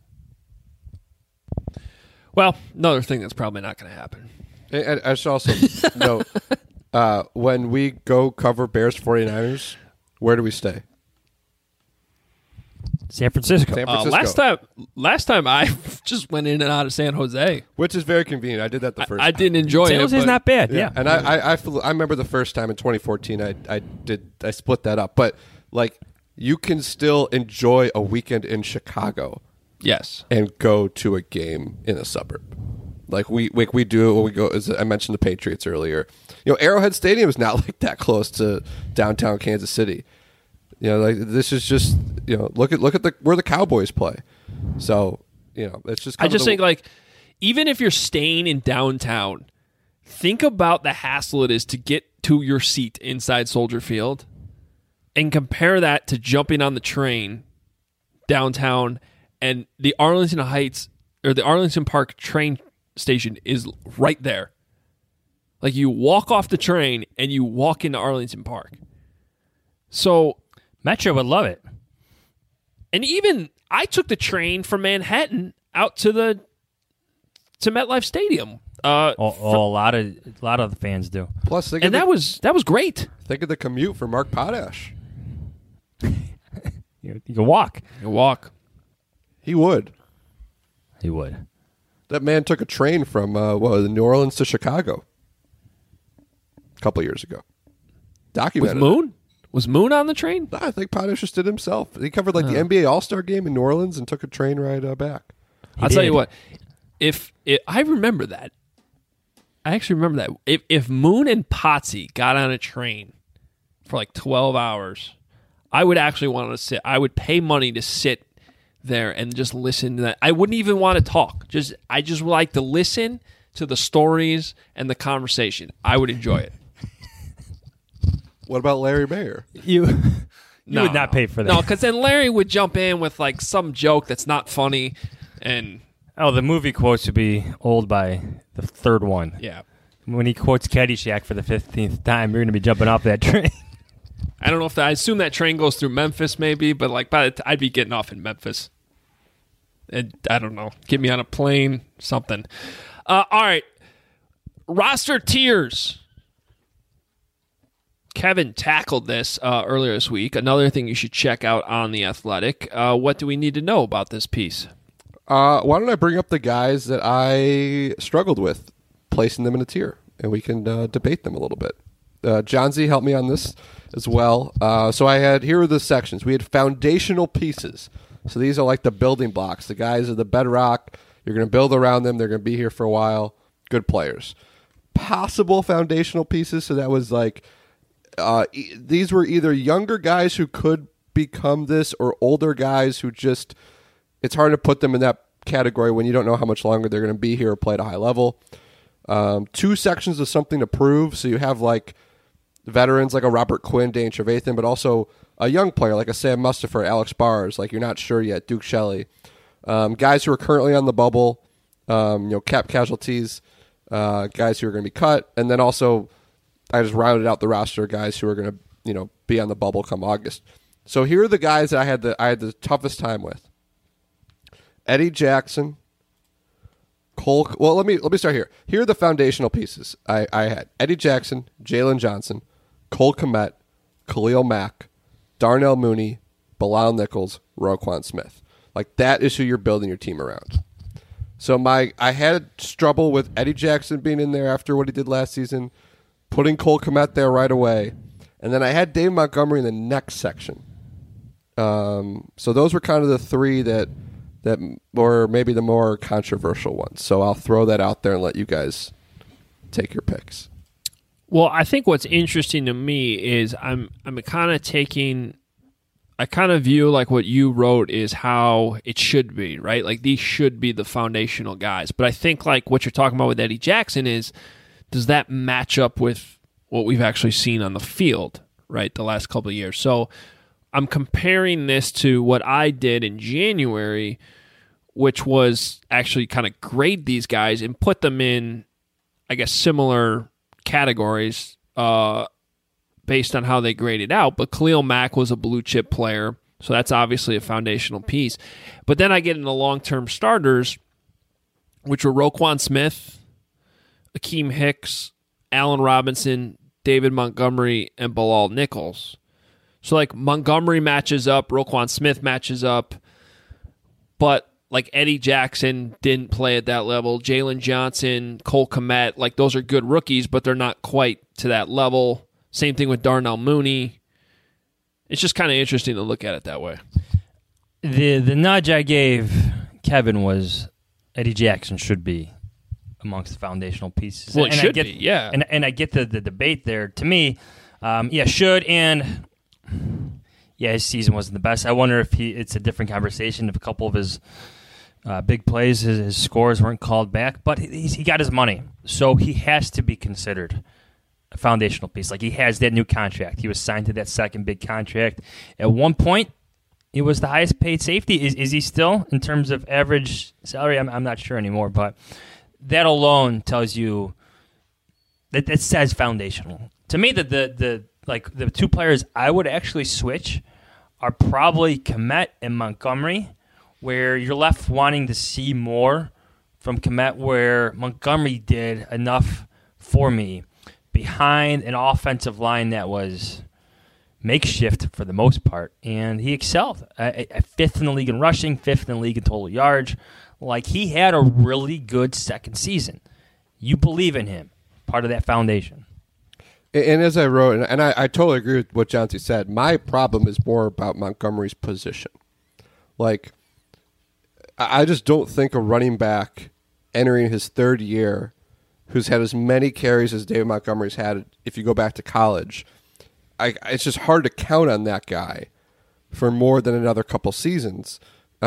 Well, another thing that's probably not going to happen. And I should also note, when we go cover Bears 49ers, where do we stay? San Francisco. San Francisco. Last time I just went in and out of San Jose, which is very convenient. I did that the first. I didn't enjoy it. San Jose's not bad. Yeah. And I remember the first time in 2014. I split that up, but like you can still enjoy a weekend in Chicago. Yes, and go to a game in a suburb. Like we do when we go. As I mentioned the Patriots earlier. Arrowhead Stadium is not like that close to downtown Kansas City. Like this is just look at where the Cowboys play. So it's just. I just think like even if you're staying in downtown, think about the hassle it is to get to your seat inside Soldier Field, and compare that to jumping on the train downtown, and the Arlington Heights or the Arlington Park train station is right there. Like you walk off the train and you walk into Arlington Park. So Metro would love it. And even I took the train from Manhattan out to MetLife Stadium. A lot of the fans do. Plus, that was great. Think of the commute for Mark Potash. You can walk. You walk. He would. That man took a train from New Orleans to Chicago a couple years ago. Documented. Was Moon on the train? No, I think Potash just did himself. He covered the NBA All-Star game in New Orleans and took a train ride back. I'll tell you what. If I remember that. I actually remember that. If Moon and Potsy got on a train for like 12 hours, I would actually want to sit. I would pay money to sit there and just listen to that. I wouldn't even want to talk. I just would like to listen to the stories and the conversation. I would enjoy it. What about Larry Mayer? You would not pay for that. No, because then Larry would jump in with like some joke that's not funny, and the movie quotes would be old by the third one. Yeah, when he quotes Caddyshack for the 15th time, you're going to be jumping off that train. I don't know if I assume that train goes through Memphis, maybe, but like I'd be getting off in Memphis. And I don't know, get me on a plane, something. All right, roster tiers. Kevin tackled this earlier this week. Another thing you should check out on The Athletic. What do we need to know about this piece? Why don't I bring up the guys that I struggled with placing them in a tier, and we can debate them a little bit. John Z helped me on this as well. So here are the sections. We had foundational pieces. So these are like the building blocks. The guys are the bedrock. You're going to build around them. They're going to be here for a while. Good players. Possible foundational pieces. So that was like, these were either younger guys who could become this or older guys who just, it's hard to put them in that category when you don't know how much longer they're going to be here or play at a high level. 2 sections of something to prove. So you have like veterans like a Robert Quinn, Dane Trevathan, but also a young player like a Sam Mustipher, Alex Bars, like you're not sure yet, Duke Shelley. Guys who are currently on the bubble, cap casualties, guys who are going to be cut, and then also I just rounded out the roster of guys who are going to be on the bubble come August. So here are the guys that I had the toughest time with. Eddie Jackson, Cole. Well, let me start here. Here are the foundational pieces I had: Eddie Jackson, Jalen Johnson, Cole Kmet, Khalil Mack, Darnell Mooney, Bilal Nichols, Roquan Smith. Like that is who you're building your team around. So I had trouble with Eddie Jackson being in there after what he did last season, putting Cole Kmet there right away, and then I had Dave Montgomery in the next section. So those were kind of the 3 that were maybe the more controversial ones. So I'll throw that out there and let you guys take your picks. Well, I think what's interesting to me is I'm kind of taking, I kind of view like what you wrote is how it should be, right? Like these should be the foundational guys. But I think like what you're talking about with Eddie Jackson is, does that match up with what we've actually seen on the field, right, the last couple of years? So I'm comparing this to what I did in January, which was actually kind of grade these guys and put them in, I guess, similar categories based on how they graded out. But Khalil Mack was a blue chip player, so that's obviously a foundational piece. But then I get into long-term starters, which were Roquan Smith, Akeem Hicks, Allen Robinson, David Montgomery, and Bilal Nichols. So, like, Montgomery matches up, Roquan Smith matches up, but, like, Eddie Jackson didn't play at that level. Jalen Johnson, Cole Kmet, like, those are good rookies, but they're not quite to that level. Same thing with Darnell Mooney. It's just kind of interesting to look at it that way. The nudge I gave Kevin was Eddie Jackson should be amongst the foundational pieces. Well, it should be, yeah. And I get the debate there. To me, should, and his season wasn't the best. I wonder if it's a different conversation if a couple of his big plays, his scores weren't called back, but he got his money, so he has to be considered a foundational piece. Like, he has that new contract. He was signed to that second big contract. At one point, he was the highest paid safety. Is he still in terms of average salary? I'm not sure anymore, but that alone tells you that says foundational. To me, the two players I would actually switch are probably Kmet and Montgomery, where you're left wanting to see more from Kmet, where Montgomery did enough for me behind an offensive line that was makeshift for the most part, and he excelled. Fifth in the league in rushing, fifth in the league in total yards. Like, he had a really good second season. You believe in him, part of that foundation. And as I wrote, and I totally agree with what Johnsy said, my problem is more about Montgomery's position. Like, I just don't think a running back entering his third year who's had as many carries as David Montgomery's had if you go back to college, it's just hard to count on that guy for more than another couple seasons.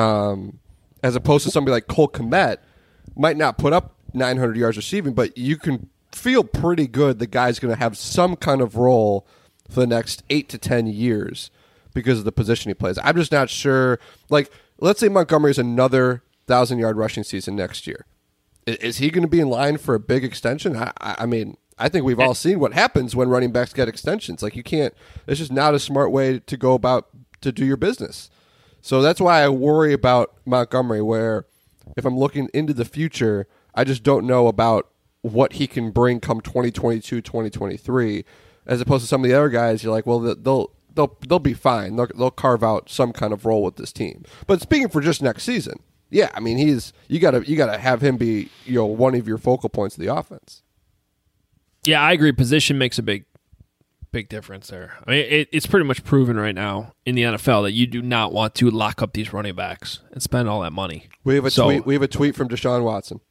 As opposed to somebody like Cole Kmet, might not put up 900 yards receiving, but you can feel pretty good the guy's going to have some kind of role for the next 8 to 10 years because of the position he plays. I'm just not sure. Like, let's say Montgomery's another 1,000-yard rushing season next year. Is he going to be in line for a big extension? I mean, I think we've all seen what happens when running backs get extensions. Like, you can't. It's just not a smart way to go about to do your business. So that's why I worry about Montgomery, where if I'm looking into the future, I just don't know about what he can bring come 2022, 2023, as opposed to some of the other guys. You're like, well, they'll be fine. They'll carve out some kind of role with this team. But speaking for just next season, yeah, I mean, you gotta have him be one of your focal points of the offense. Yeah, I agree. Position makes a big difference there. I mean, it's pretty much proven right now in the NFL that you do not want to lock up these running backs and spend all that money. We have a tweet. We have a tweet from Deshaun Watson.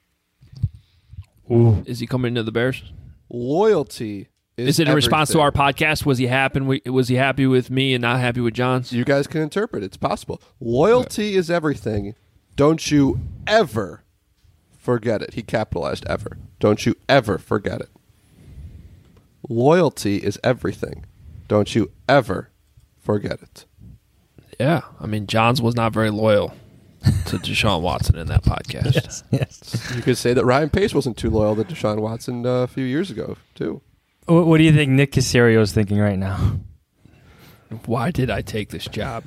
Ooh. Is he coming into the Bears? Loyalty is it in response to our podcast? Was he happy with me and not happy with John? You guys can interpret. It's possible. Loyalty is everything. Don't you ever forget it. He capitalized ever. Don't you ever forget it. Loyalty is everything. Don't you ever forget it. Yeah. I mean, Johns was not very loyal to Deshaun Watson in that podcast. Yes. You could say that Ryan Pace wasn't too loyal to Deshaun Watson a few years ago, too. What do you think Nick Caserio is thinking right now? Why did I take this job?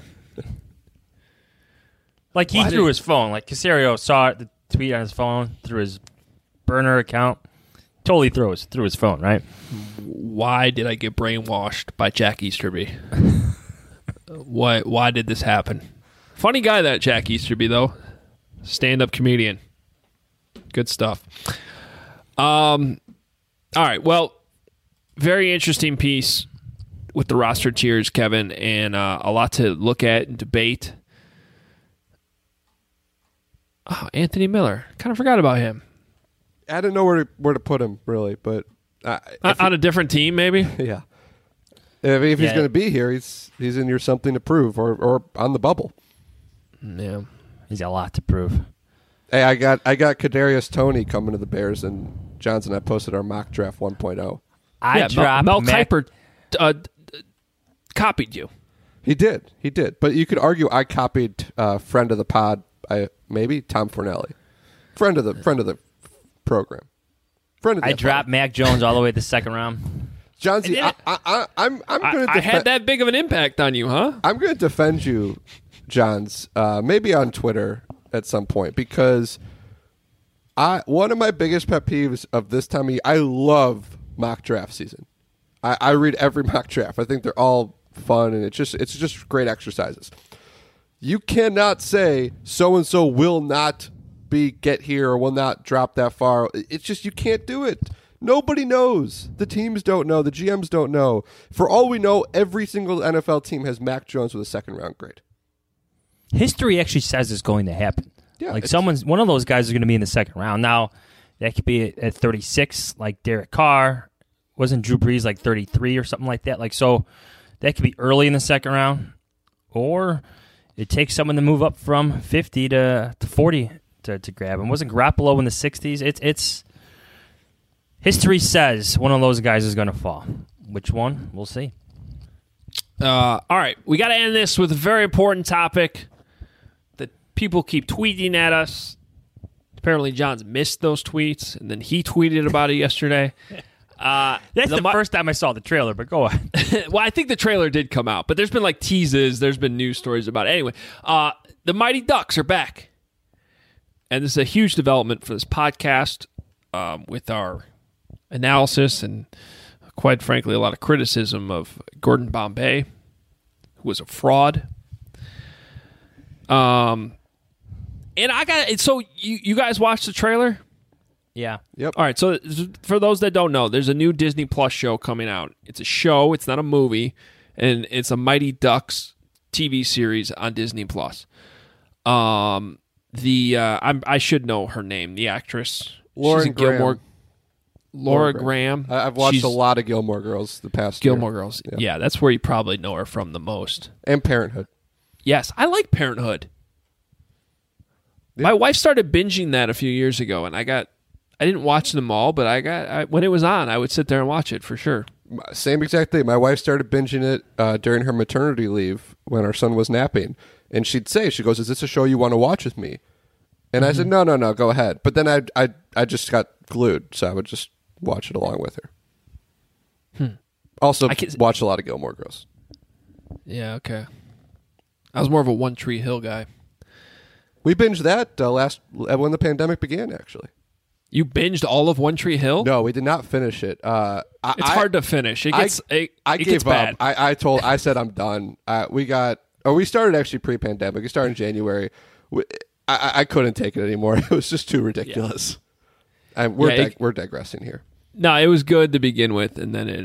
Like, he threw his phone. Like, Caserio saw the tweet on his phone through his burner account. Totally threw his phone, right? Why did I get brainwashed by Jack Easterby? Why did this happen? Funny guy, that Jack Easterby, though. Stand-up comedian. Good stuff. All right, well, very interesting piece with the roster tiers, Kevin, and a lot to look at and debate. Oh, Anthony Miller. Kind of forgot about him. I don't know where to put him, really, but on a different team, maybe. Yeah. If he's going to be here, he's in your something to prove, or on the bubble. Yeah, he's got a lot to prove. Hey, I got Kadarius Toney coming to the Bears, and Johnson. I posted our mock draft 1.0. Mel Kiper copied you. He did, but you could argue I copied friend of the pod, maybe Tom Fornelli, friend of the program. I dropped Mac Jones all the way to the second round. Johnsy, I'm going to. I had that big of an impact on you, huh? I'm going to defend you, Johns, maybe on Twitter at some point, because one of my biggest pet peeves of this time of year, I love mock draft season. I read every mock draft. I think they're all fun, and it's just great exercises. You cannot say so-and-so will not get here or will not drop that far. It's just you can't do it. Nobody knows. The teams don't know. The GMs don't know. For all we know, every single NFL team has Mac Jones with a second-round grade. History actually says it's going to happen. Yeah, like one of those guys is going to be in the second round. Now, that could be at 36, like Derek Carr. Wasn't Drew Brees like 33 or something like that? Like, so that could be early in the second round, or it takes someone to move up from 50 to 40 to grab him. Wasn't Garoppolo in the 60s? It's history says one of those guys is going to fall. Which one? We'll see. All right, we got to end this with a very important topic that people keep tweeting at us. Apparently, John's missed those tweets, and then he tweeted about it yesterday. That's the first time I saw the trailer, but go on. Well, I think the trailer did come out, but there's been like teases. There's been news stories about it. Anyway, the Mighty Ducks are back. And this is a huge development for this podcast with our analysis and, quite frankly, a lot of criticism of Gordon Bombay, who was a fraud. And I got so you guys watched the trailer? Yeah. Yep. All right. So for those that don't know, there's a new Disney Plus show coming out. It's a show. It's not a movie, and it's a Mighty Ducks TV series on Disney Plus. I should know her name. The actress, Lauren Graham. Laura Graham. I've watched a lot of Gilmore Girls the past year. Gilmore Girls. Yeah, that's where you probably know her from the most. And Parenthood. Yes, I like Parenthood. Yeah. My wife started binging that a few years ago, and I didn't watch them all, but when it was on, I would sit there and watch it for sure. Same exact thing. My wife started binging it during her maternity leave when our son was napping. And she goes, "Is this a show you want to watch with me?" And I said, no, go ahead. But then I just got glued, so I would just watch it along with her. Also, watch a lot of Gilmore Girls. Yeah, okay. I was more of a One Tree Hill guy. We binged that when the pandemic began, actually. You binged all of One Tree Hill? No, we did not finish it. It's hard to finish. It gets gave bad. up. I said I'm done. We started actually pre-pandemic. We started in January. I couldn't take it anymore. It was just too ridiculous. Yeah. We're digressing here. No, it was good to begin with, and then it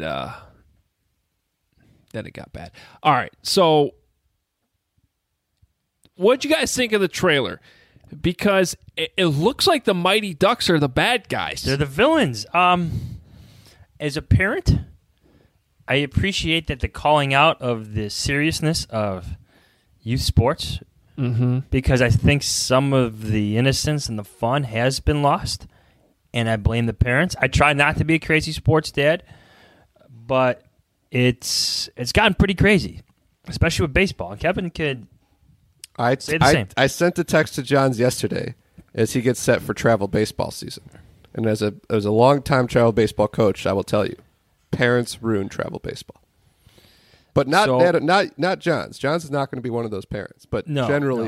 got bad. All right, so what'd you guys think of the trailer? Because it looks like the Mighty Ducks are the bad guys. They're the villains. As a parent, I appreciate that the calling out of the seriousness of youth sports, because I think some of the innocence and the fun has been lost, and I blame the parents. I try not to be a crazy sports dad, but it's gotten pretty crazy, especially with baseball. And Kevin could say the same. I sent a text to Johns yesterday as he gets set for travel baseball season, and as a long-time travel baseball coach, I will tell you, parents ruin travel baseball. But not Johns. Johns is not going to be one of those parents. But generally,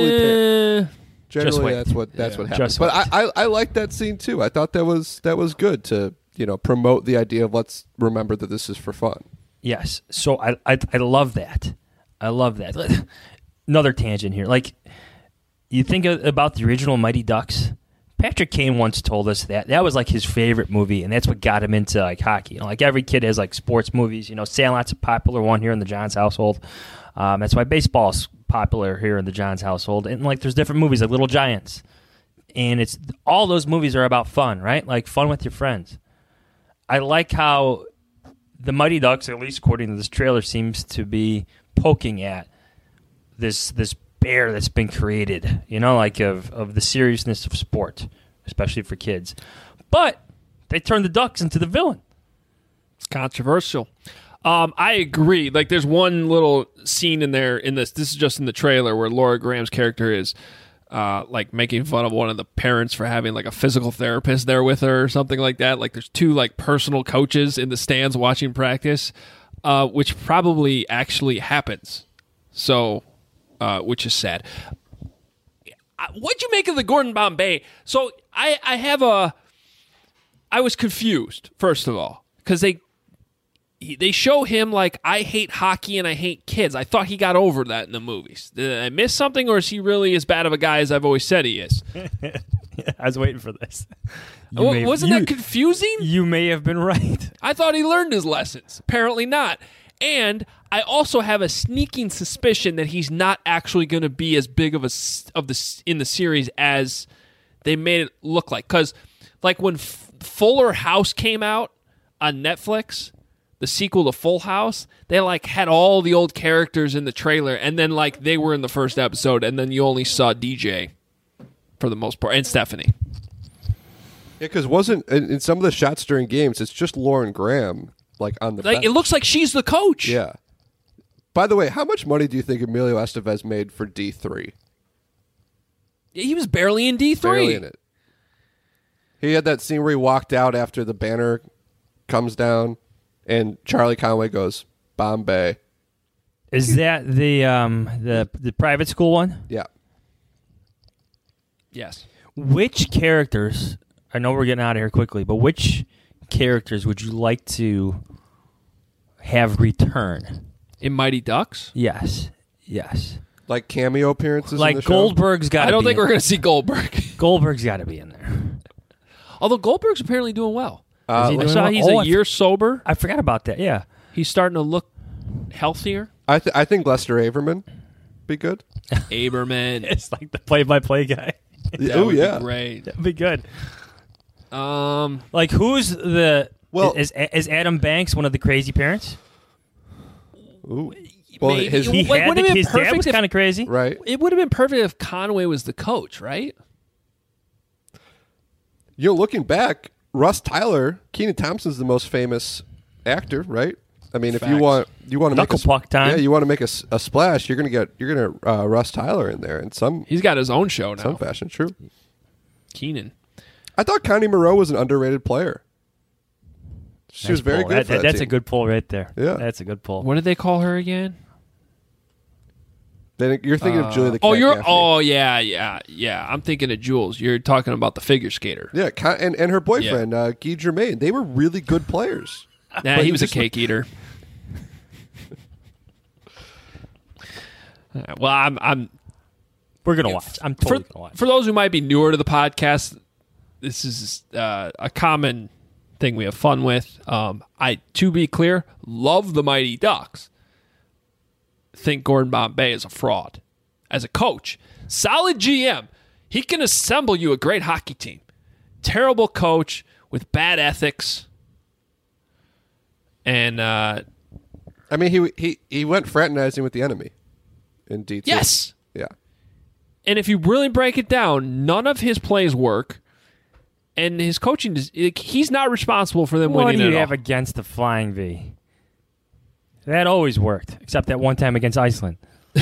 that's what happens. But I like that scene too. I thought that was good to promote the idea of let's remember that this is for fun. Yes. So I love that. I love that. Another tangent here. Like, you think about the original Mighty Ducks. Patrick Kane once told us that was like his favorite movie, and that's what got him into like hockey. Like every kid has like sports movies. Sandlot's a popular one here in the Johns household. That's why baseball's popular here in the Johns household. And like there's different movies like Little Giants, and it's all those movies are about fun, right? Like fun with your friends. I like how the Mighty Ducks, at least according to this trailer, seems to be poking at this bear that's been created, of the seriousness of sport, especially for kids. But they turned the Ducks into the villain. It's controversial. I agree. Like, there's one little scene in there this is just in the trailer, where Laura Graham's character is like making fun of one of the parents for having like a physical therapist there with her or something like that. Like, there's two like personal coaches in the stands watching practice, which probably actually happens. So, which is sad. What'd you make of the Gordon Bombay? So I was confused, first of all, because they show him like, I hate hockey and I hate kids. I thought he got over that in the movies. Did I miss something, or is he really as bad of a guy as I've always said he is? I was waiting for this. Wasn't that confusing? You may have been right. I thought he learned his lessons. Apparently not. And I also have a sneaking suspicion that he's not actually going to be as big of in the series as they made it look like. Because like when Fuller House came out on Netflix, the sequel to Full House, they like had all the old characters in the trailer, and then like they were in the first episode, and then you only saw DJ for the most part, and Stephanie. Yeah, because wasn't in some of the shots during games, it's just Lauren Graham like on the bench. It looks like she's the coach. Yeah. By the way, how much money do you think Emilio Estevez made for D3? He was barely in D3. Barely in it. He had that scene where he walked out after the banner comes down, and Charlie Conway goes, Bombay. Is that the private school one? Yeah. Yes. Which characters, I know we're getting out of here quickly, but which characters would you like to have return? In Mighty Ducks? Yes. Like cameo appearances Like in the show? Goldberg's got to be I don't think we're going to see Goldberg. Goldberg's got to be in there. Although Goldberg's apparently doing well. Is he I doing saw well? he's a year sober. I forgot about that, yeah. He's starting to look healthier. I think Lester Averman be good. Aberman. It's like the play-by-play guy. That Oh, would yeah. be great. That'd be good. Um, Like, who's the... Well- is Adam Banks one of the crazy parents? Ooh. Well, maybe. his, He Like, had wouldn't it be his dad perfect was if- kind of crazy. right. it would have been perfect if Conway was the coach, right? You know, looking back, Russ Tyler, Kenan Thompson's the most famous actor, right? I mean, if you Facts. want to make Knuckle puck time. yeah, you want to make a splash, you're gonna Russ Tyler in there in some He's got his own show now. fashion. True. Keenan. I thought Connie Moreau was an underrated player. She was very good. For that That's team. a good pull right there. Yeah. That's a good pull. What did they call her again? Then you're thinking of Julia the Oh, Cat you're. Gaffney. Oh, yeah. I'm thinking of Jules. You're talking about the figure skater. Yeah, and her boyfriend Guy Germain. They were really good players. Nah, But he was a just- cake eater. Well, I'm We're gonna watch. I'm totally gonna watch. for those who might be newer to the podcast, this is a common thing we have fun with. To be clear, love the Mighty Ducks. Think Gordon Bombay is a fraud. As a coach, solid GM, he can assemble you a great hockey team. Terrible coach with bad ethics. And I mean, he went fraternizing with the enemy in D2. yes. Yeah. And if you really break it down, none of his plays work. And his coaching, he's not responsible for them What winning do you at all. have against the Flying V? That always worked, except that one time against Iceland.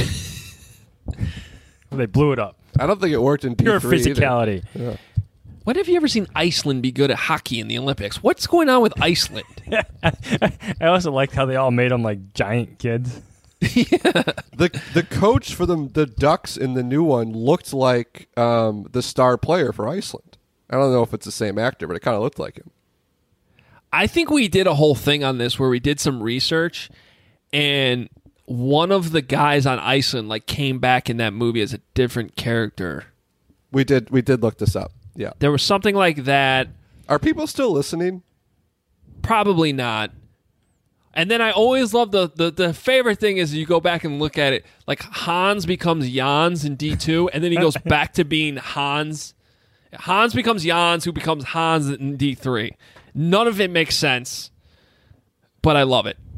They blew it up. I don't think it worked in D3 Pure either. physicality. When have you ever seen Iceland be good at hockey in the Olympics? What's going on with Iceland? I also liked how they all made them like giant kids. The coach for the Ducks in the new one looked like the star player for Iceland. I don't know if it's the same actor, but it kind of looked like him. I think we did a whole thing on this where we did some research, and one of the guys on Iceland came back in that movie as a different character. We did look this up. Yeah. There was something like that. Are people still listening? Probably not. And then I always love the favorite thing is you go back and look at it. Like Hans becomes Jans in D2, and then he goes back to being Hans. Hans becomes Jans, who becomes Hans in D3. None of it makes sense, but I love it.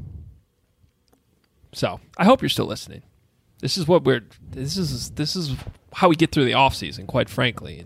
So I hope you're still listening. This is what we're. This is how we get through the off season, quite frankly.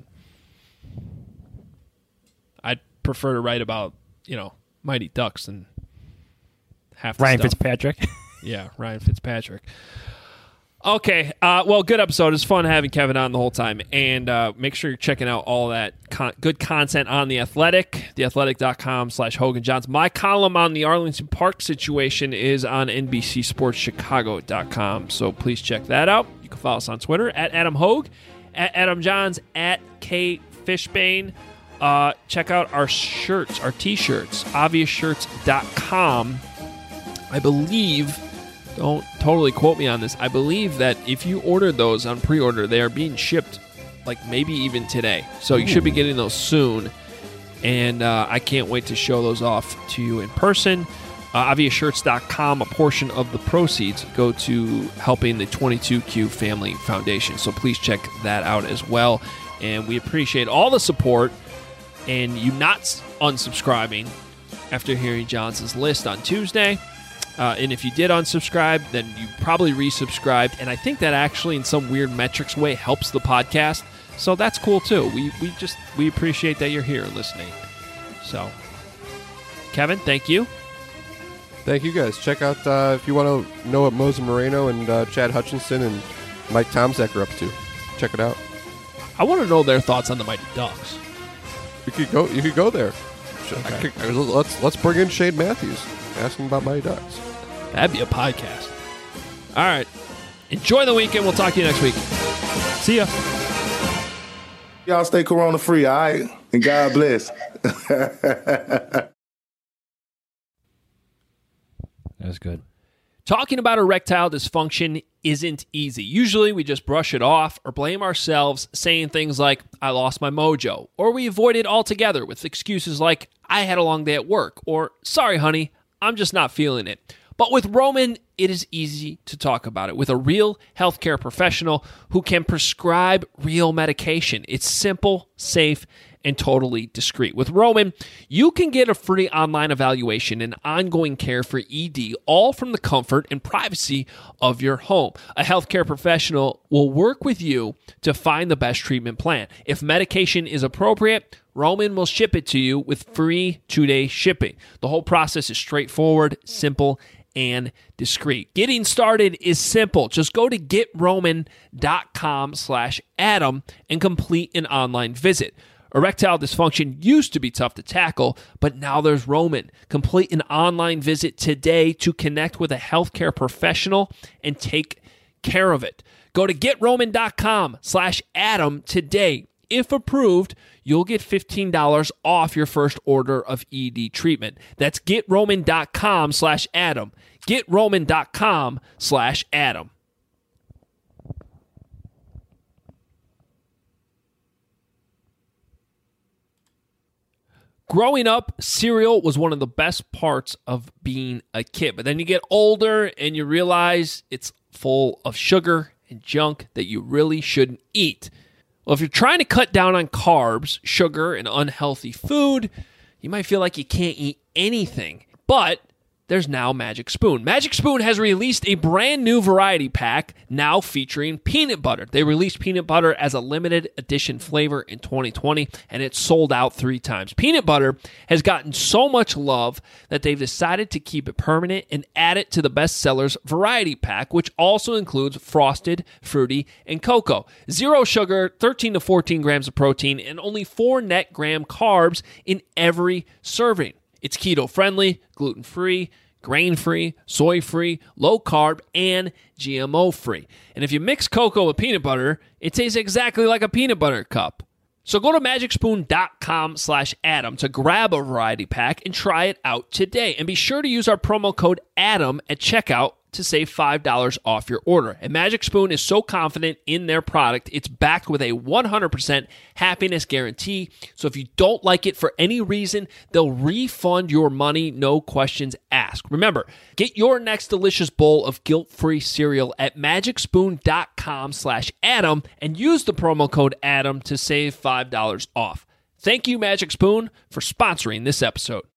I'd prefer to write about Mighty Ducks than half the Ryan stuff. Fitzpatrick. Yeah, Ryan Fitzpatrick. Okay, well, good episode. It's fun having Kevin on the whole time. And make sure you're checking out all that good content on The Athletic, theathletic.com/Hogan Johns. My column on the Arlington Park situation is on NBCSportsChicago.com, so please check that out. You can follow us on Twitter, at Adam Hogue, at Adam Johns, at K Fishbane. Check out our shirts, our T-shirts, obviousshirts.com. I believe, don't totally quote me on this, I believe that if you ordered those on pre-order, they are being shipped like maybe even today. So you should be getting those soon. And I can't wait to show those off to you in person. AviaShirts.com, a portion of the proceeds go to helping the 22Q Family Foundation. So please check that out as well. And we appreciate all the support and you not unsubscribing after hearing Johnson's list on Tuesday. And if you did unsubscribe, then you probably resubscribed. And I think that actually in some weird metrics way helps the podcast. So that's cool too. We appreciate that you're here listening. So, Kevin, thank you. Thank you, guys. Check out, if you want to know what Mose Moreno and Chad Hutchinson and Mike Tomczak are up to. Check it out. I want to know their thoughts on the Mighty Ducks. You could go there. Okay. Let's bring in Shane Matthews. Ask him about Mighty Ducks. That'd be a podcast. All right. Enjoy the weekend. We'll talk to you next week. See ya. Y'all stay corona free, all right? And God bless. That was good. Talking about erectile dysfunction isn't easy. Usually we just brush it off or blame ourselves, saying things like, I lost my mojo, or we avoid it altogether with excuses like, I had a long day at work, or sorry, honey, I'm just not feeling it. But with Roman, it is easy to talk about it with a real healthcare professional who can prescribe real medication. It's simple, safe, and totally discreet. With Roman, you can get a free online evaluation and ongoing care for ED, all from the comfort and privacy of your home. A healthcare professional will work with you to find the best treatment plan. If medication is appropriate, Roman will ship it to you with free 2-day shipping. The whole process is straightforward, simple, and discreet. Getting started is simple. Just go to getroman.com/Adam and complete an online visit. Erectile dysfunction used to be tough to tackle, but now there's Roman. Complete an online visit today to connect with a healthcare professional and take care of it. Go to getroman.com/Adam today. If approved, you'll get $15 off your first order of ED treatment. That's getroman.com/Adam. getroman.com/Adam. Growing up, cereal was one of the best parts of being a kid. But then you get older and you realize it's full of sugar and junk that you really shouldn't eat. Well, if you're trying to cut down on carbs, sugar, and unhealthy food, you might feel like you can't eat anything. But there's now Magic Spoon. Magic Spoon has released a brand new variety pack now featuring peanut butter. They released peanut butter as a limited edition flavor in 2020, and it sold out 3 times. Peanut butter has gotten so much love that they've decided to keep it permanent and add it to the bestsellers variety pack, which also includes frosted, fruity, and cocoa. 0 sugar, 13 to 14 grams of protein, and only 4 net gram carbs in every serving. It's keto-friendly, gluten-free, grain-free, soy-free, low-carb, and GMO-free. And if you mix cocoa with peanut butter, it tastes exactly like a peanut butter cup. So go to magicspoon.com/Adam to grab a variety pack and try it out today. And be sure to use our promo code ADAM at checkout to save $5 off your order. And Magic Spoon is so confident in their product, it's backed with a 100% happiness guarantee. So if you don't like it for any reason, they'll refund your money, no questions asked. Remember, get your next delicious bowl of guilt-free cereal at magicspoon.com/Adam and use the promo code ADAM to save $5 off. Thank you, Magic Spoon, for sponsoring this episode.